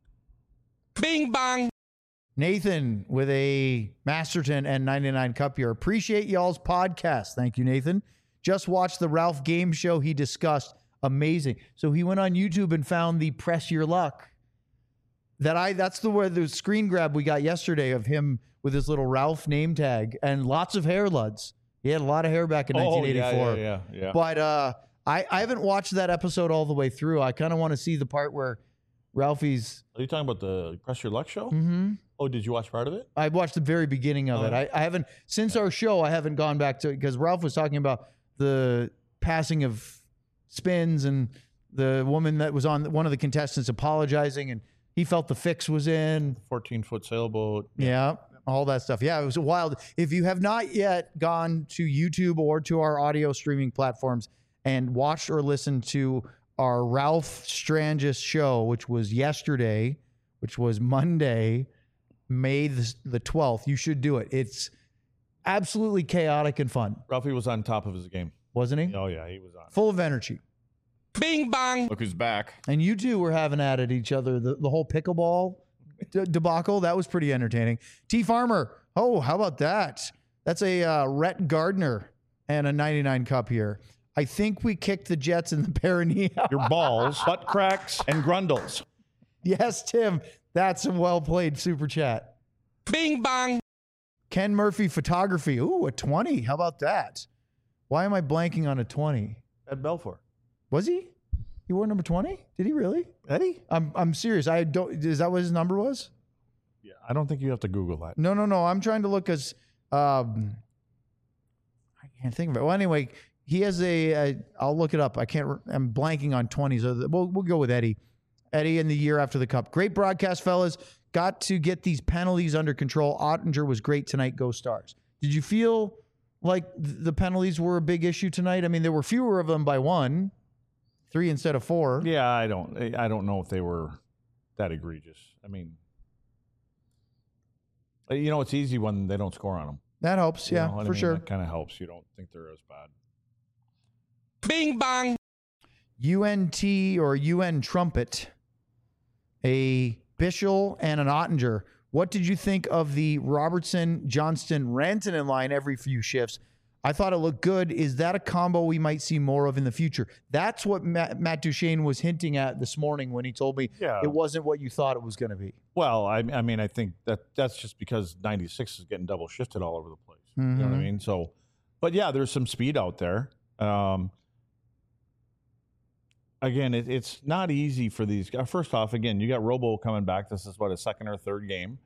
Bing bong.
Nathan with a Masterton N99 cup here. Appreciate y'all's podcast. Thank you, Nathan. Just watched the Ralph game show he discussed. Amazing. So he went on YouTube and found the Press Your Luck. That's the screen grab we got yesterday of him with his little Ralph name tag and lots of hair luds. He had a lot of hair back in 1984.
Yeah.
But I haven't watched that episode all the way through. I kind of want to see the part where Ralphie's.
Are you talking about the Press Your Luck show?
Mm-hmm.
Oh, did you watch part of it?
I watched the very beginning of it. I haven't since our show. I haven't gone back to it because Ralph was talking about the passing of Spins and the woman that was on one of the contestants apologizing, and he felt the fix was in.
14-foot sailboat.
Yeah, all that stuff. Yeah, it was wild. If you have not yet gone to YouTube or to our audio streaming platforms and watched or listened to our Ralph Strangis show, which was yesterday, which was Monday, May the 12th, you should do it. It's absolutely chaotic and fun,
Ralphie was on top of his game.
wasn't he?
Oh yeah, he was on.
Full of energy.
Bing bong.
Look who's back.
And you two were having at each other. The whole pickleball debacle, that was pretty entertaining. T Farmer, oh, how about that? That's a Rhett Gardner and a 99 cup here. I think we kicked the Jets in the perineum.
Your balls, butt cracks, and grundles.
Yes, Tim, that's a well played super chat.
Bing bong.
Ken Murphy photography. Ooh, a 20. How about that? Why am I blanking on a 20?
At Belfour.
Was he? He wore number 20? Did he really?
Eddie?
I'm serious. I don't. Is that what his number was?
Yeah, I don't think you have to Google that.
No. I'm trying to look as. I can't think of it. Well, anyway, he has I'll look it up. I'm blanking on 20s. So we'll go with Eddie. Eddie in the year after the cup. Great broadcast, fellas. Got to get these penalties under control. Ottinger was great tonight. Go Stars. Did you feel like the penalties were a big issue tonight? I mean, there were fewer of them by one, 3 instead of 4.
Yeah, I don't know if they were that egregious. I mean, it's easy when they don't score on them.
That helps. Yeah, for sure.
That kind of helps. You don't think they're as bad.
Bing bong.
UNT or UN Trumpet, a Bischel and an Ottinger. What did you think of the Robertson, Johnston, Rantanen line every few shifts? I thought it looked good. Is that a combo we might see more of in the future? That's what Matt Duchesne was hinting at this morning when he told me it wasn't what you thought it was going to be.
Well, I mean, I think that's just because 96 is getting double shifted all over the place. You know what I mean? So, but yeah, there's some speed out there. Again, it's not easy for these guys. First off, again, you got Robo coming back. This is what, a second or third game.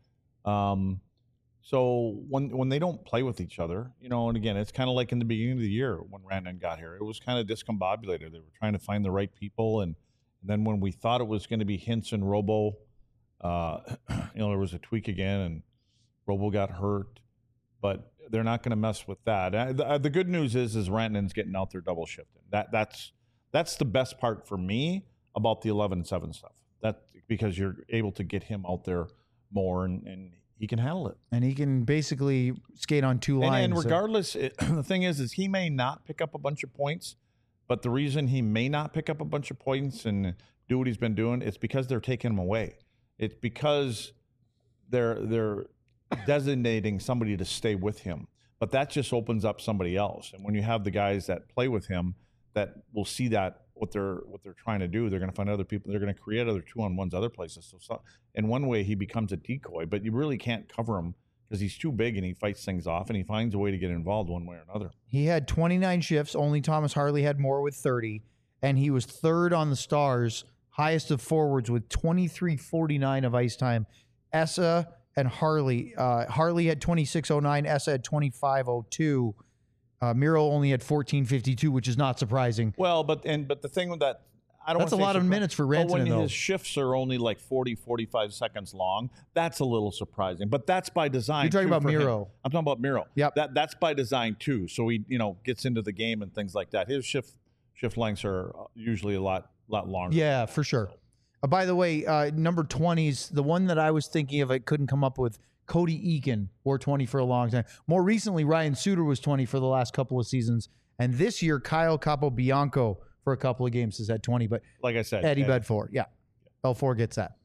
So when they don't play with each other, and again, it's kind of like in the beginning of the year when Rantanen got here, it was kind of discombobulated. They were trying to find the right people. And then when we thought it was going to be Hintz and Robo, there was a tweak again and Robo got hurt, but they're not going to mess with that. The good news is Rantanen's getting out there double shifting. That's the best part for me about the 11-7 stuff. That because you're able to get him out there more and he can handle it.
And he can basically skate on 2 lines.
And regardless, the thing is he may not pick up a bunch of points, but the reason he may not pick up a bunch of points and do what he's been doing, it's because they're taking him away. It's because they're designating somebody to stay with him. But that just opens up somebody else. And when you have the guys that play with him that will see that what they're trying to do, they're going to find other people. They're going to create other 2-on-1s other places. So in one way, he becomes a decoy, but you really can't cover him because he's too big and he fights things off and he finds a way to get involved one way or another.
He had 29 shifts. Only Thomas Harley had more with 30, and he was third on the Stars, highest of forwards with 23:49 of ice time. Essa and Harley. Harley had 26:09. Essa had 25:02. Miro only had 14:52, which is not surprising.
Well, but the thing with that, I don't
That's a
wanna say
lot of
surpri-
minutes for
But when
Rantanen, though.
his shifts are only like 40, 45 seconds long, that's a little surprising. But that's by design.
You're talking
too,
about
for him.
Miro.
I'm talking about Miro.
Yep.
That's by design too. So he, gets into the game and things like that. His shift lengths are usually a lot longer.
Yeah, for sure. By the way, number 20s, the one that I was thinking of, I couldn't come up with. Cody Eakin wore 20 for a long time. More recently, Ryan Suter was 20 for the last couple of seasons. And this year, Kyle Capobianco for a couple of games has had 20. But
Like I said,
Eddie Bedford, yeah. Belfour gets that.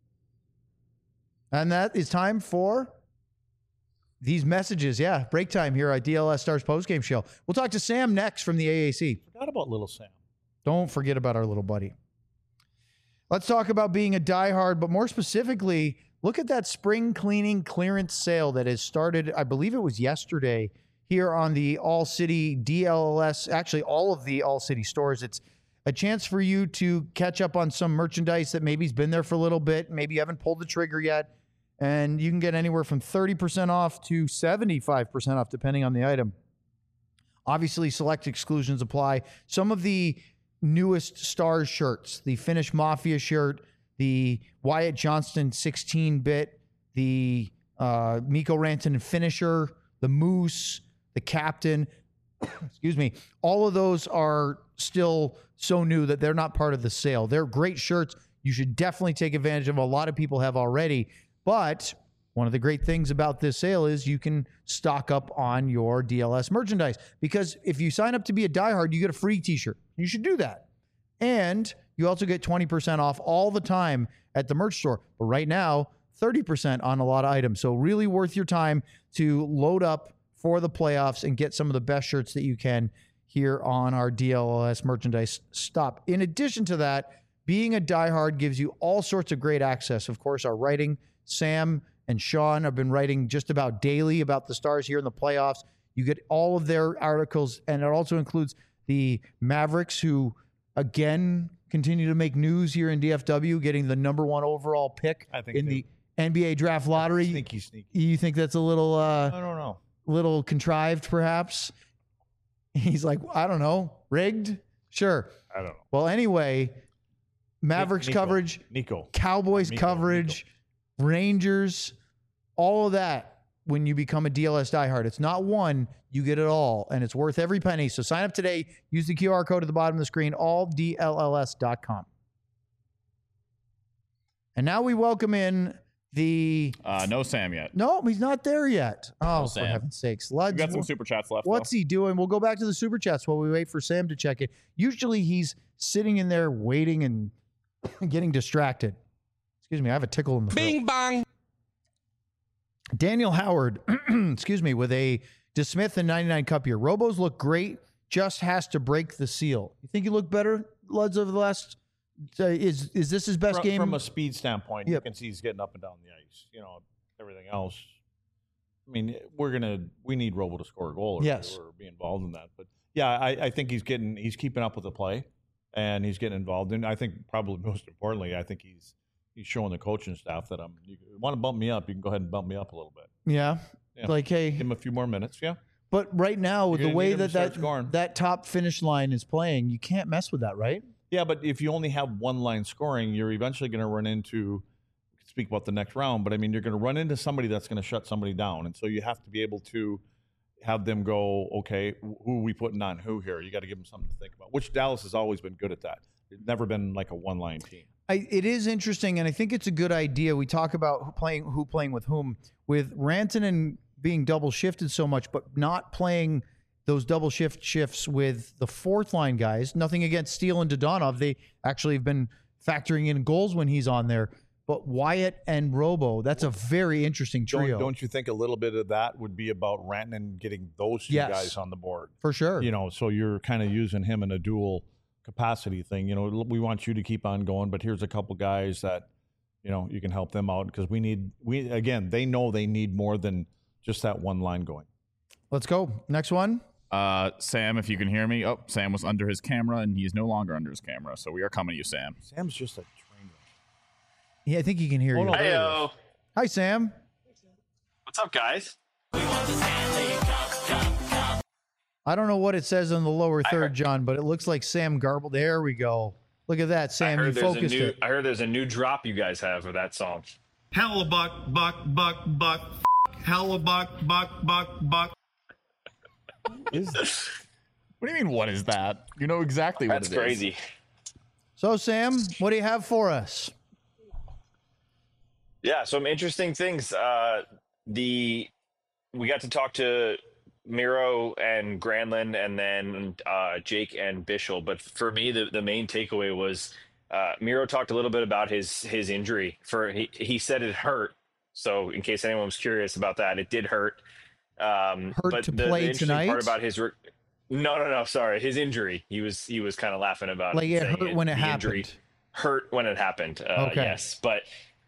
And that is time for these messages. Yeah, break time here at DLS Stars postgame show. We'll talk to Sam next from the AAC.
Forgot about little Sam.
Don't forget about our little buddy. Let's talk about being a diehard, but more specifically, look at that spring cleaning clearance sale that has started, I believe it was yesterday, here on the All City DLS, actually all of the All City stores. It's a chance for you to catch up on some merchandise that maybe's been there for a little bit. Maybe you haven't pulled the trigger yet. And you can get anywhere from 30% off to 75% off, depending on the item. Obviously, select exclusions apply. Some of the newest Stars shirts, the Finnish Mafia shirt, the Wyatt Johnston 16-bit, the Mikko Rantanen finisher, the Moose, the Captain, excuse me, all of those are still so new that they're not part of the sale. They're great shirts. You should definitely take advantage of them. A lot of people have already. But one of the great things about this sale is you can stock up on your DLS merchandise. Because if you sign up to be a diehard, you get a free t-shirt. You should do that. And you also get 20% off all the time at the merch store. But right now, 30% on a lot of items. So really worth your time to load up for the playoffs and get some of the best shirts that you can here on our DLS merchandise stop. In addition to that, being a diehard gives you all sorts of great access. Of course, our writing, Sam and Sean have been writing just about daily about the Stars here in the playoffs. You get all of their articles, and it also includes the Mavericks, who, again, continue to make news here in DFW, getting the #1 overall pick in the NBA draft lottery.
Sneaky.
You think that's a little
I don't know.
little contrived, perhaps? He's like, I don't know, rigged? Sure.
I don't know.
Well, anyway, Mavericks
Nico.
coverage,
Nico.
Cowboys
Nico,
coverage, Rangers, all of that when you become a DLS diehard. It's not one, you get it all, and it's worth every penny. So sign up today. Use the QR code at the bottom of the screen, alldlls.com. And now we welcome in the...
No Sam yet.
No, he's not there yet. Oh, for
Sam.
heaven's sakes.
We
Luds,
got some super chats left.
what's he doing? We'll go back to the super chats while we wait for Sam to check it. Usually he's sitting in there waiting and getting distracted. Excuse me, I have a tickle in the throat.
Bing bong.
Daniel Howard, excuse me, with a DeSmith and 99 Cup here. Robos look great, just has to break the seal. You think he looked better, Luds, over the last... is this his best game?
From a speed standpoint,
Yep.
you can see he's getting up and down the ice. Everything else. I mean, we need Robo to score a goal
Yes.
or be involved in that. But yeah, I think he's keeping up with the play and he's getting involved. And I think probably most importantly, I think he's showing the coaching staff that you want to bump me up, you can go ahead and bump me up a little bit.
Yeah.
Yeah.
Like, hey,
Give him a few more minutes. Yeah.
but right now, with
You're
the
gonna
way
need him to start
that
scoring.
that top finish line is playing, you can't mess with that, right?
Yeah, but if you only have one line scoring, you're eventually going to run into, we could speak about the next round, but I mean, you're going to run into somebody that's going to shut somebody down. And so you have to be able to have them go, okay, who are we putting on who here? You got to give them something to think about, which Dallas has always been good at that. It's never been like a one-line team.
It is interesting, and I think it's a good idea. We talk about who playing with whom, with Rantanen being double shifted so much, but not playing those double shifts with the fourth line guys. Nothing against Steele and Dodonov. They actually have been factoring in goals when he's on there. But Wyatt and Robo, that's a very interesting trio.
Don't you think a little bit of that would be about Rantanen getting those two
Yes.
guys on the board?
For sure.
So you're kind of using him in a dual capacity thing. We want you to keep on going, but here's a couple guys that, you can help them out because they know they need more than just that one line going.
Let's go. Next one.
Sam, if you can hear me. Oh, Sam was under his camera, and he is no longer under his camera. So we are coming to you, Sam.
Sam's just a train wreck.
Yeah, I think he can hear you.
no, there he is.
Heyo.
Hi, Sam.
What's up, guys?
I don't know what it says on the lower third, John, but it looks like Sam garbled. There we go. Look at that, Sam. You focused it.
I heard there's a new drop you guys have of that song.
Hellebuck, buck, buck, buck. Hellebuck, buck, buck, buck.
What do you mean, what is that? You know exactly what it is.
That's crazy.
So, Sam, what do you have for us?
Yeah, some interesting things. We got to talk to Miro and Granlund, and then Jake and Bischel. But for me, the main takeaway was Miro talked a little bit about his injury. He said it hurt. So in case anyone was curious about that, it did hurt. But
to
the
play
interesting
tonight?
part about his no, sorry, his injury. He was kind of laughing about
Like it hurt when it
the injury
happened.
hurt when it happened.
Okay.
Yes, but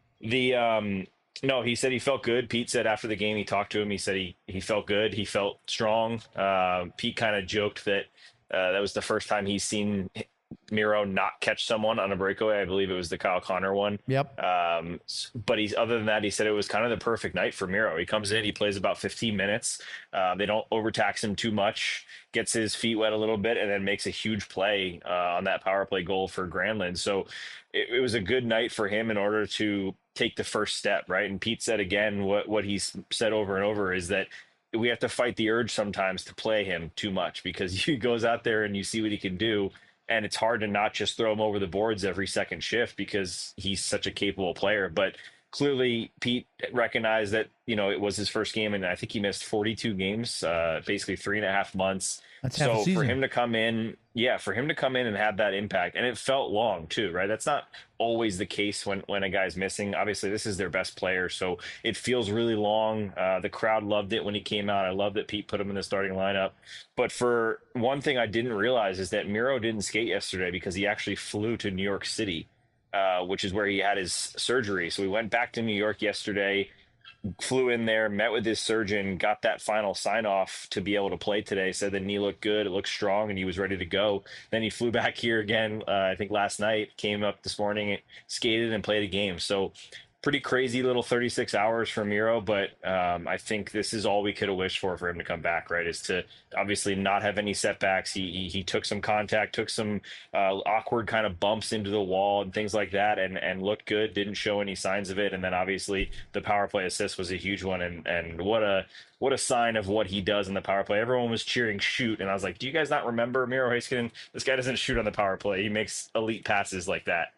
no, he said he felt good. Pete said after the game, he talked to him. He said he felt good. He felt strong. Pete kind of joked that that was the first time he's seen Miro not catch someone on a breakaway. I believe it was the Kyle Connor one.
Yep.
But other than that, he said it was kind of the perfect night for Miro. He comes in, he plays about 15 minutes. They don't overtax him too much, gets his feet wet a little bit, and then makes a huge play on that power play goal for Granlund. So it was a good night for him in order to take the first step, right? And Pete said again, what he's said over and over is that we have to fight the urge sometimes to play him too much, because he goes out there and you see what he can do. And it's hard to not just throw him over the boards every second shift because he's such a capable player. But clearly Pete recognized that, it was his first game, and I think he missed 42 games, basically 3.5 months.
That's half a
so
season.
for him to come in and have that impact, and it felt long too, right? That's not always the case when a guy's missing. Obviously, this is their best player, so it feels really long. The crowd loved it when he came out. I love that Pete put him in the starting lineup. But for one thing I didn't realize is that Miro didn't skate yesterday because he actually flew to New York City, which is where he had his surgery. So he went back to New York yesterday, flew in there, met with his surgeon, got that final sign off to be able to play today, said the knee looked good, it looked strong, and he was ready to go. Then he flew back here again, I think last night, came up this morning, skated and played a game. So pretty crazy little 36 hours for Miro, but I think this is all we could have wished for him to come back, right? Is to obviously not have any setbacks. He took some contact, took some awkward kind of bumps into the wall and things like that, and looked good, didn't show any signs of it. And then obviously the power play assist was a huge one, and what a sign of what he does in the power play. Everyone was cheering shoot, and I was like, do you guys not remember Miro Heiskanen? This guy doesn't shoot on the power play. He makes elite passes like that.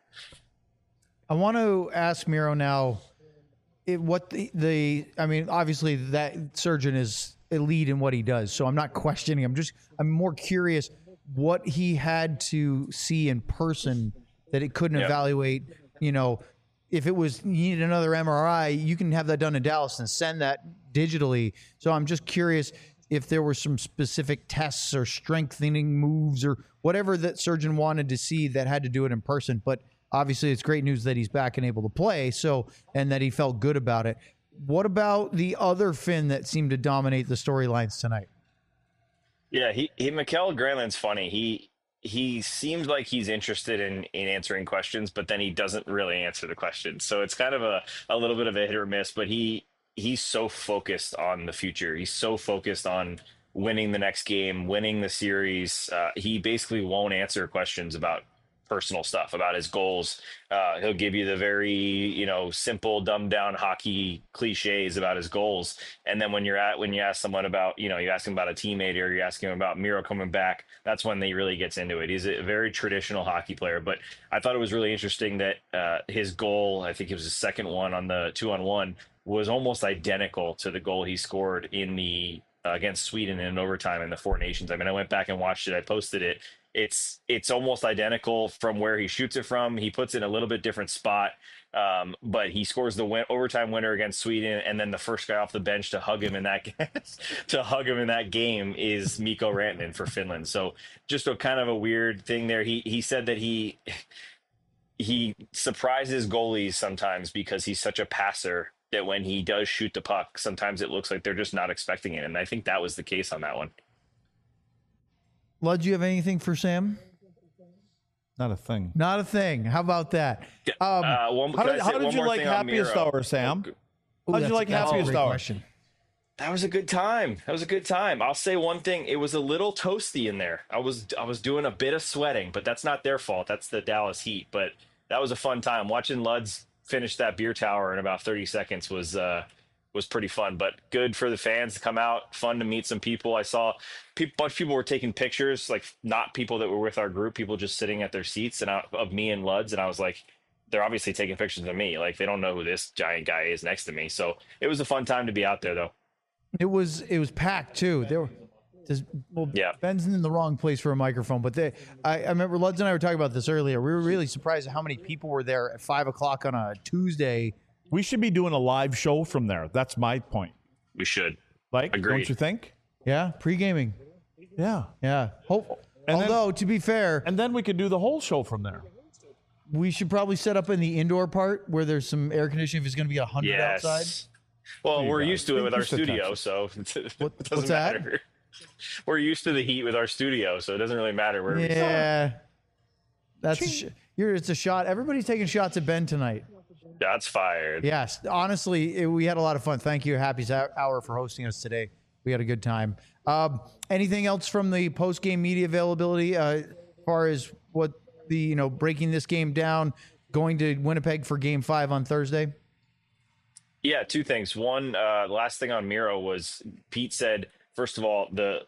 I want to ask Miro now, obviously that surgeon is elite in what he does, so I'm not questioning. I'm more curious what he had to see in person that it couldn't evaluate. If it was, you need another MRI, you can have that done in Dallas and send that digitally. So I'm just curious if there were some specific tests or strengthening moves or whatever that surgeon wanted to see that had to do it in person. But obviously, it's great news that he's back and able to play, and that he felt good about it. What about the other Finn that seemed to dominate the storylines tonight?
Yeah, Mikael Granlund's funny. He seems like he's interested in answering questions, but then he doesn't really answer the questions. So it's kind of a little bit of a hit or miss, but he's so focused on the future. He's so focused on winning the next game, winning the series. He basically won't answer questions about personal stuff, about his goals. He'll give you the very, simple, dumbed down hockey cliches about his goals. And then when you ask someone about, you ask him about a teammate, or you ask him about Miro coming back, that's when he really gets into it. He's a very traditional hockey player, but I thought it was really interesting that his goal, I think it was his second one on the 2-on-1, was almost identical to the goal he scored in the against Sweden in overtime in the Four Nations. I mean, I went back and watched it. I posted it. It's almost identical from where he shoots it from. He puts it in a little bit different spot, but he scores the overtime winner against Sweden, and then the first guy off the bench to hug him in that game is Mikko Rantanen for Finland. So just a kind of a weird thing there. He said that he surprises goalies sometimes because he's such a passer that when he does shoot the puck, sometimes it looks like they're just not expecting it, and I think that was the case on that one.
Lud, do you have anything for Sam?
Not a thing.
Not a thing. How about that?
How did you like Happiest Hour, Sam? How did you like Happiest Hour?
That was a good time. That was a good time. I'll say one thing. It was a little toasty in there. I was doing a bit of sweating, but that's not their fault. That's the Dallas Heat. But that was a fun time. Watching Luds finish that beer tower in about 30 seconds was pretty fun. But good for the fans to come out. Fun to meet some people. I saw a bunch of people were taking pictures, like not people that were with our group, people just sitting at their seats of me and Luds. And I was like, they're obviously taking pictures of me. Like they don't know who this giant guy is next to me. So it was a fun time to be out there, though.
It was packed too.
Yeah.
Ben's in the wrong place for a microphone, but I remember Luds and I were talking about this earlier. We were really surprised at how many people were there at 5:00 on a Tuesday.
We should be doing a live show from there. That's my point.
We should.
Like,
Agreed.
don't you think?
Yeah, pre-gaming.
Yeah.
Yeah.
And
Although, to be fair,
And then we could do the whole show from there.
we should probably set up in the indoor part where there's some air conditioning if it's going to be 100
Yes.
outside.
Well,
You
we're
guys.
used to it with our
Just
studio,
attention.
so it
What's
doesn't
that?
matter. We're used to the heat with our studio, so it doesn't really matter where we sit.
Yeah. It's a shot. Everybody's taking shots at Ben tonight.
That's fired.
Yes, honestly, we had a lot of fun. Thank you, Happy's Hour, for hosting us today. We had a good time. Anything else from the post-game media availability as far as what the breaking this game down, going to Winnipeg for Game 5 on Thursday?
Yeah, two things. One, the last thing on Miro was Pete said, first of all, the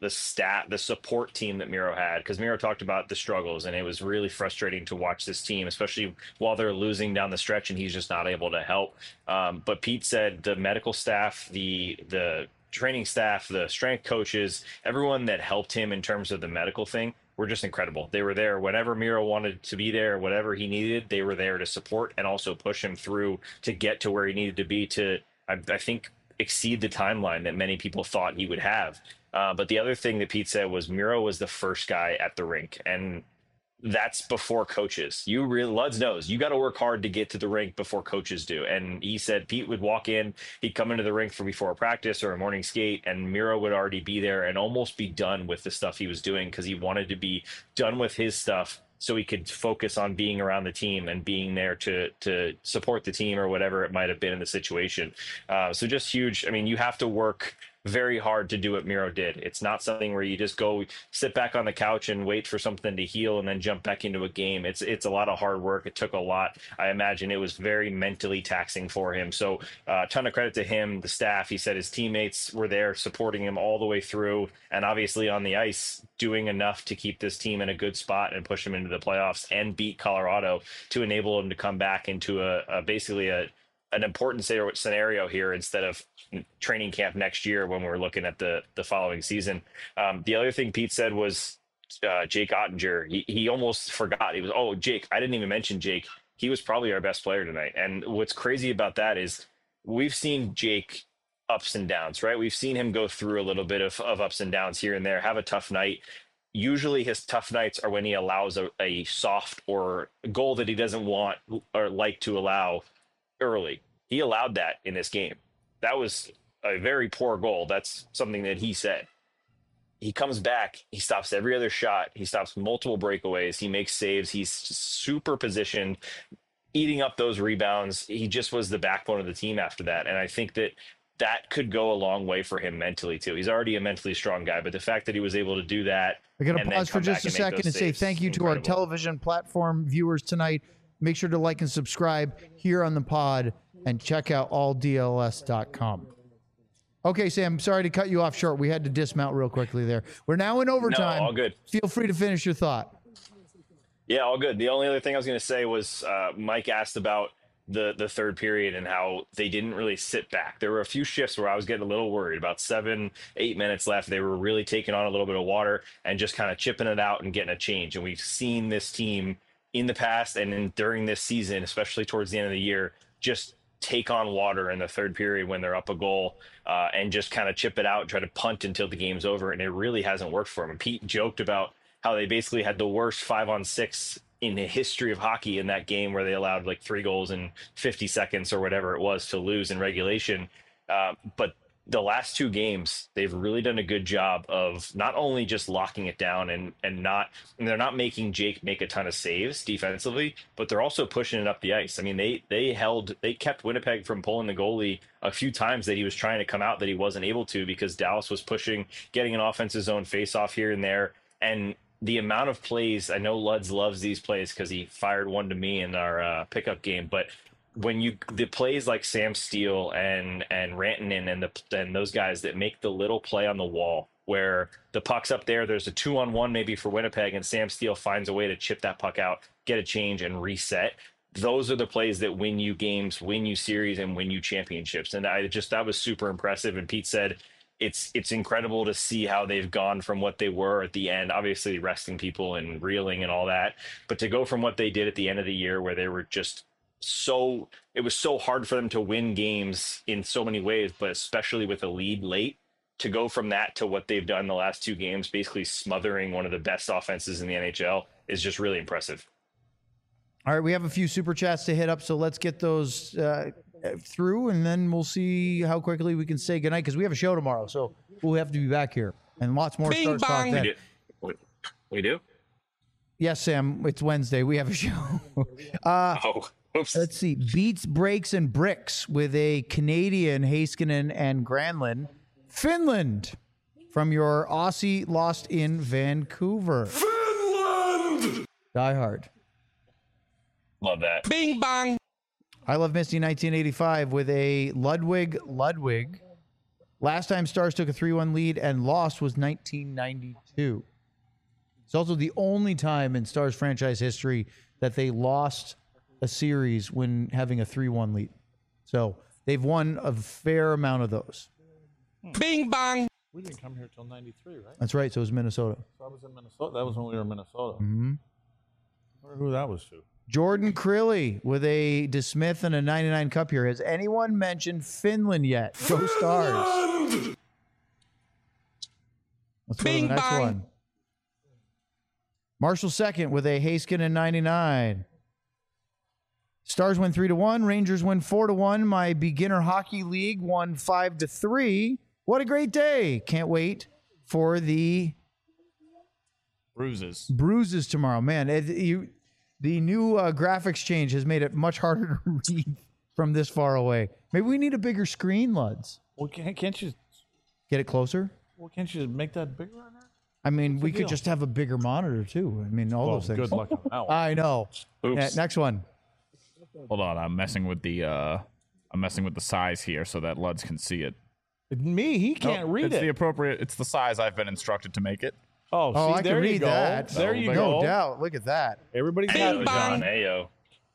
support team that Miro had, because Miro talked about the struggles, and it was really frustrating to watch this team, especially while they're losing down the stretch and he's just not able to help. But Pete said the medical staff, the training staff, the strength coaches, everyone that helped him in terms of the medical thing were just incredible. They were there whenever Miro wanted to be there, whatever he needed, they were there to support and also push him through to get to where he needed to be to, I think, exceed the timeline that many people thought he would have. But the other thing that Pete said was Miro was the first guy at the rink, and that's before coaches. Luds knows you got to work hard to get to the rink before coaches do. And he said Pete would walk in, he'd come into the rink before a practice or a morning skate, and Miro would already be there and almost be done with the stuff he was doing because he wanted to be done with his stuff so he could focus on being around the team and being there to support the team or whatever it might have been in the situation. So just huge. I mean, you have to work very hard to do what Miro did. It's not something where you just go sit back on the couch and wait for something to heal and then jump back into a game. It's a lot of hard work. It took a lot. I imagine it was very mentally taxing for him. So a ton of credit to him, the staff. He said his teammates were there supporting him all the way through, and obviously on the ice doing enough to keep this team in a good spot and push them into the playoffs and beat Colorado to enable them to come back into basically an important scenario here instead of training camp next year when we're looking at the following season. The other thing Pete said was Jake Ottinger. He almost forgot. He was, Jake. I didn't even mention Jake. He was probably our best player tonight. And what's crazy about that is we've seen Jake ups and downs, right? We've seen him go through a little bit of ups and downs here and there, have a tough night. Usually his tough nights are when he allows a soft or goal that he doesn't want or like to allow early. He allowed that in this game. That was a very poor goal. That's something that he said. He comes back, he stops every other shot, he stops multiple breakaways, he makes saves, he's super positioned, eating up those rebounds. He just was the backbone of the team after that. And I think that could go a long way for him mentally too. He's already a mentally strong guy, but the fact that he was able to do that.
I got to pause for just a second and say thank you to our television platform viewers tonight. Make sure to like and subscribe here on the pod and check out alldls.com. Okay, Sam, sorry to cut you off short. We had to dismount real quickly there. We're now in overtime.
No, all good.
Feel free to finish your thought.
Yeah, all good. The only other thing I was going to say was Mike asked about the third period and how they didn't really sit back. There were a few shifts where I was getting a little worried. About 7-8 minutes left, they were really taking on a little bit of water and just kind of chipping it out and getting a change. And we've seen this team in the past and during this season, especially towards the end of the year, just take on water in the third period when they're up a goal and just kind of chip it out and try to punt until the game's over. And it really hasn't worked for them. And Pete joked about how they basically had the worst 5-on-6 in the history of hockey in that game where they allowed like 3 goals in 50 seconds or whatever it was to lose in regulation. But the last two games, they've really done a good job of not only just locking it down and they're not making Jake make a ton of saves defensively, but they're also pushing it up the ice. I mean, they kept Winnipeg from pulling the goalie a few times that he was trying to come out that he wasn't able to because Dallas was pushing, getting an offensive zone face off here and there. And the amount of plays, I know Luds loves these plays because he fired one to me in our pickup game, but when the plays like Sam Steele and Rantanen and those guys that make the little play on the wall where the puck's up there's a 2-on-1 maybe for Winnipeg and Sam Steele finds a way to chip that puck out, get a change and reset. Those are the plays that win you games, win you series, and win you championships. And that was super impressive. And Pete said it's incredible to see how they've gone from what they were at the end, obviously resting people and reeling and all that, but to go from what they did at the end of the year where they were just it was so hard for them to win games in so many ways, but especially with a lead late, to go from that to what they've done the last two games, basically smothering one of the best offenses in the NHL, is just really impressive.
All right, we have a few super chats to hit up, so let's get those through, and then we'll see how quickly we can say goodnight because we have a show tomorrow, so we'll have to be back here and lots more
Bing
Stars talk
bong.
then.
We do?
Yes, Sam, it's Wednesday. We have a show.
Oops.
Let's see. Beats, Breaks, and Bricks with a Canadian, Heiskanen and Granlund. Finland from your Aussie lost in Vancouver. Finland! Die Hard.
Love that.
Bing bong.
I Love Misty 1985 with a Ludwig. Last time Stars took a 3-1 lead and lost was 1992. It's also the only time in Stars franchise history that they lost a series when having a 3-1 lead. So they've won a fair amount of those.
Bing bong.
We didn't come here till 93, right?
That's right. So it was Minnesota.
So I was in Minnesota. That was when we were in Minnesota.
Mm-hmm.
I wonder who that was to.
Jordan Crilly with a DeSmith and a 99 cup here. Has anyone mentioned Finland yet? Go Stars. Let's go to the
Bing
next
bong.
one. Marshall second with a Heiskanen 99. Stars win 3-1. Rangers win 4-1. My beginner hockey league won 5-3. What a great day. Can't wait for the bruises tomorrow. Man, the new graphics change has made it much harder to read from this far away. Maybe we need a bigger screen, Luds.
Well, can't you
Get it closer?
Well, can't you make that bigger on there?
I mean, we
the
could
deal?
just have a bigger monitor, too. I mean, all those things.
Good luck on that one.
I know.
Oops.
Yeah, next one.
Hold on, I'm messing with the size here so that Luds can see it.
Me, he can't read
it's
it.
It's the size I've been instructed to make it.
Oh,
Oh,
see,
I
there
can
you
read
go.
that.
There you
No
go.
doubt. Look at that.
Everybody's
Bing
got
Ayo,
it.
bong.
John. Ayo.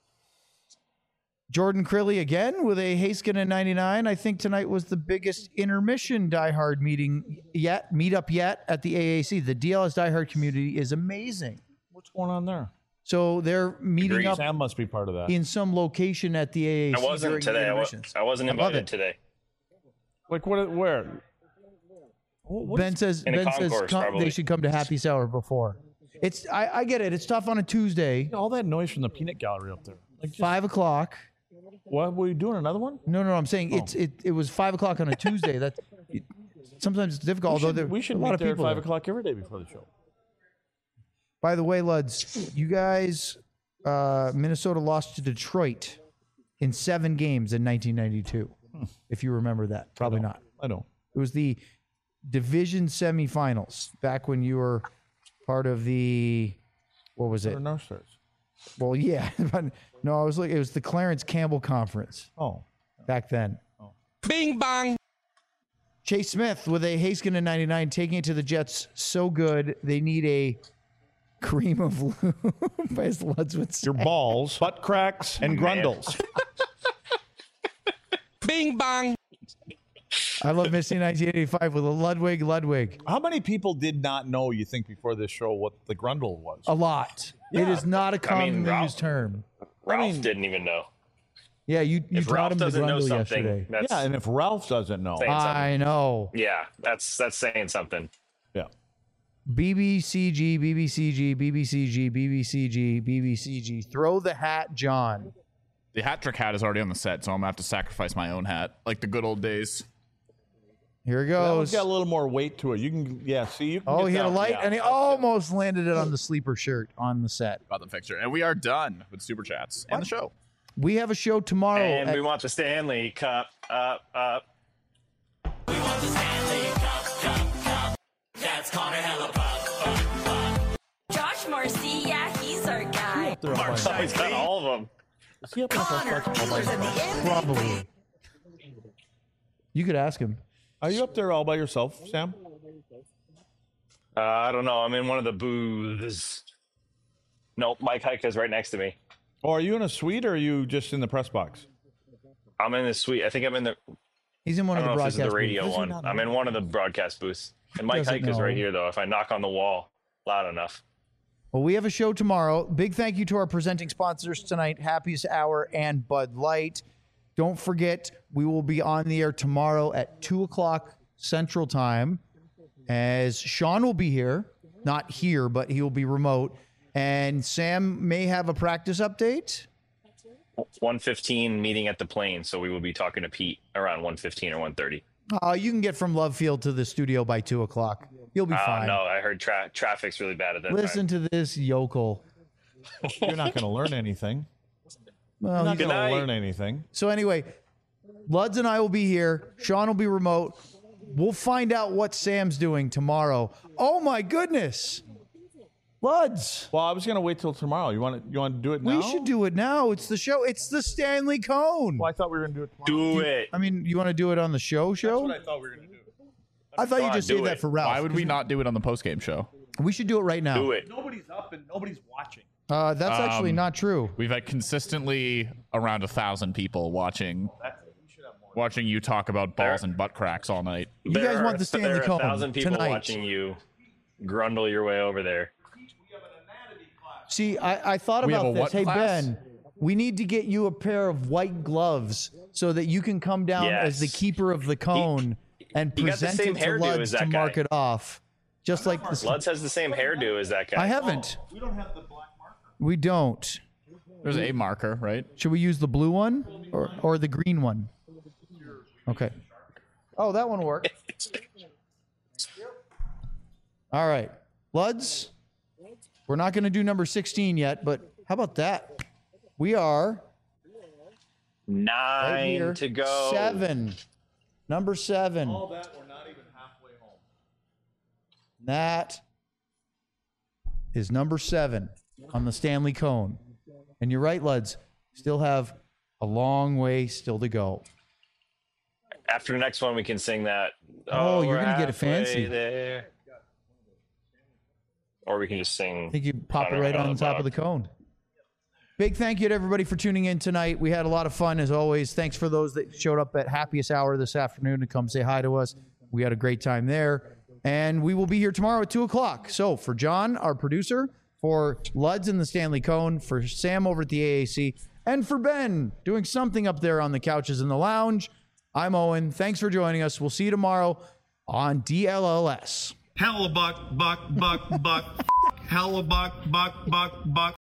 Jordan Crilly again with a Heiskanen 99. I think tonight was the biggest intermission diehard meetup yet at the AAC. The DLS diehard community is amazing.
What's going on there?
So they're meeting
Agreed.
up
Sam must be part of that.
in some location at the AAC.
I wasn't
during the
today.
intermissions.
I wasn't
I love
invited
it.
today.
Like what? Where? What
Ben says
In a concourse,
they
probably.
should come to Happy Sour before. I get it. It's tough on a Tuesday.
all that noise from the peanut gallery up there. Like, just,
5 o'clock.
what were you doing? Another one?
No. I'm saying it was 5 o'clock on a Tuesday. Sometimes it's difficult. Although
we should
a lot
meet
of
there at
people
5
there.
o'clock every day before the show.
By the way, Luds, you guys, Minnesota lost to Detroit in 7 games in 1992. If you remember that, probably not.
I know.
It was the division semifinals back when you were part of the, what was it?
Or no stars.
Well, yeah, but no, it was the Clarence Campbell Conference
Oh,
back then.
Bing bong.
Chase Smith with a Heiskanen 99 taking it to the Jets so good they need a cream of lube, as Luds would say.
your balls, butt cracks, and grundles.
Bing bong.
I love Misty 1985 with a Ludwig.
How many people did not know, you think, before this show what the grundle was?
A lot. It is not a commonly
Ralph-
used term.
Ralph didn't even know.
Yeah, you
If
taught
Ralph
him the
doesn't know
grundle
something,
yesterday.
that's
Yeah, and if Ralph doesn't know,
saying something.
I know.
Yeah, that's saying something.
yeah.
BBCG. Throw the hat, John.
The hat trick hat is already on the set, so I'm gonna have to sacrifice my own hat, like the good old days.
Here it
That one's
goes.
got a little more weight to it. You can, see. You can
Oh,
get
he had a
that-
light,
yeah.
and he almost landed it on the sleeper shirt on the set.
About the fixture. And we are done with Super Chats and the show.
We have a show tomorrow.
And
at-
we want the Stanley Cup up.
We want the Stanley Cup. That's Connor Hellebuck.
Josh Marcy, yeah, he's our guy.
He's got all of them.
Is he up in the
Connor,
first
Wheeler's at the end.
Probably. You could ask him.
Are you up there all by yourself, Sam?
I don't know. I'm in one of the booths. Nope, Mike Heika's right next to me.
Or are you in a suite, or are you just in the press box?
I'm in the suite. I think I'm in the.
He's in one
I
of
don't
the
know if this
broadcast
is the radio
booths.
one. I'm in one of the broadcast booths. And Mike
Doesn't
Heika's
know.
right here, though. If I knock on the wall loud enough.
Well, we have a show tomorrow. Big thank you to our presenting sponsors tonight, Happiest Hour and Bud Light. Don't forget, we will be on the air tomorrow at 2 o'clock Central Time, as Sean will be here. Not here, but he will be remote. And Sam may have a practice update.
1:15 meeting at the plane, so we will be talking to Pete around 1:15 or 1:30.
You can get from Love Field to the studio by 2 o'clock. You'll be fine.
No, I heard traffic's really bad at that
Listen
time.
to this yokel.
You're not going to learn anything.
Well,
You're not
he's-
going
night.
to learn anything.
So anyway, Luds and I will be here. Sean will be remote. We'll find out what Sam's doing tomorrow. Oh my goodness. Luds.
Well, I was going to wait till tomorrow. You want to do it now?
We should do it now. It's the show. It's the Stanley Cone.
Well, I thought we were going to do it tomorrow.
Do it.
I mean, you want to do it on the show?
That's what I thought we were going to do.
I thought you
Come on,
just
do
said that
it.
for Ralph.
Why would we not do it on the post-game show?
We should do it right now.
Do it.
Nobody's up and nobody's watching.
That's actually not true.
We've had consistently around 1,000 people watching you talk about balls and butt cracks all night.
You guys want the Stanley
There are
Cone
1,000 people
tonight.
watching you grundle your way over there.
See, I thought
We have
about
a
this.
what
Hey,
class?
Ben, we need to get you a pair of white gloves so that you can come down as the
Yes.
keeper of the cone and
he got the
present
same
it to
hairdo
Luds
as
to
that
mark
guy.
it off. Just like this.
Lutz has the same hairdo as that guy.
I haven't.
We don't have the black marker.
We don't.
There's a marker, right?
Should we use the blue one or the green one? Okay. Oh, that one worked. All right. Luds, we're not going to do number 16 yet, but how about that? We are
9
right here.
to go.
7. Number 7.
All that, we're not even halfway home.
That is number 7 on the Stanley Cone. And you're right, Luds. Still have a long way still to go.
After the next one, we can sing that.
Oh, you're
we're
gonna get it
halfway
fancy.
there. Or we can just sing.
I think you pop it
Connor
right on the top of the
Hellebuck.
cone. Big thank you to everybody for tuning in tonight. We had a lot of fun as always. Thanks for those that showed up at Happiest Hour this afternoon to come say hi to us. We had a great time there. And we will be here tomorrow at 2 o'clock. So for John, our producer, for Luds and the Stanley Cone, for Sam over at the AAC, and for Ben doing something up there on the couches in the lounge, I'm Owen. Thanks for joining us. We'll see you tomorrow on DLLS.
Hellebuck, buck, buck, buck. Hellebuck, buck, buck, buck.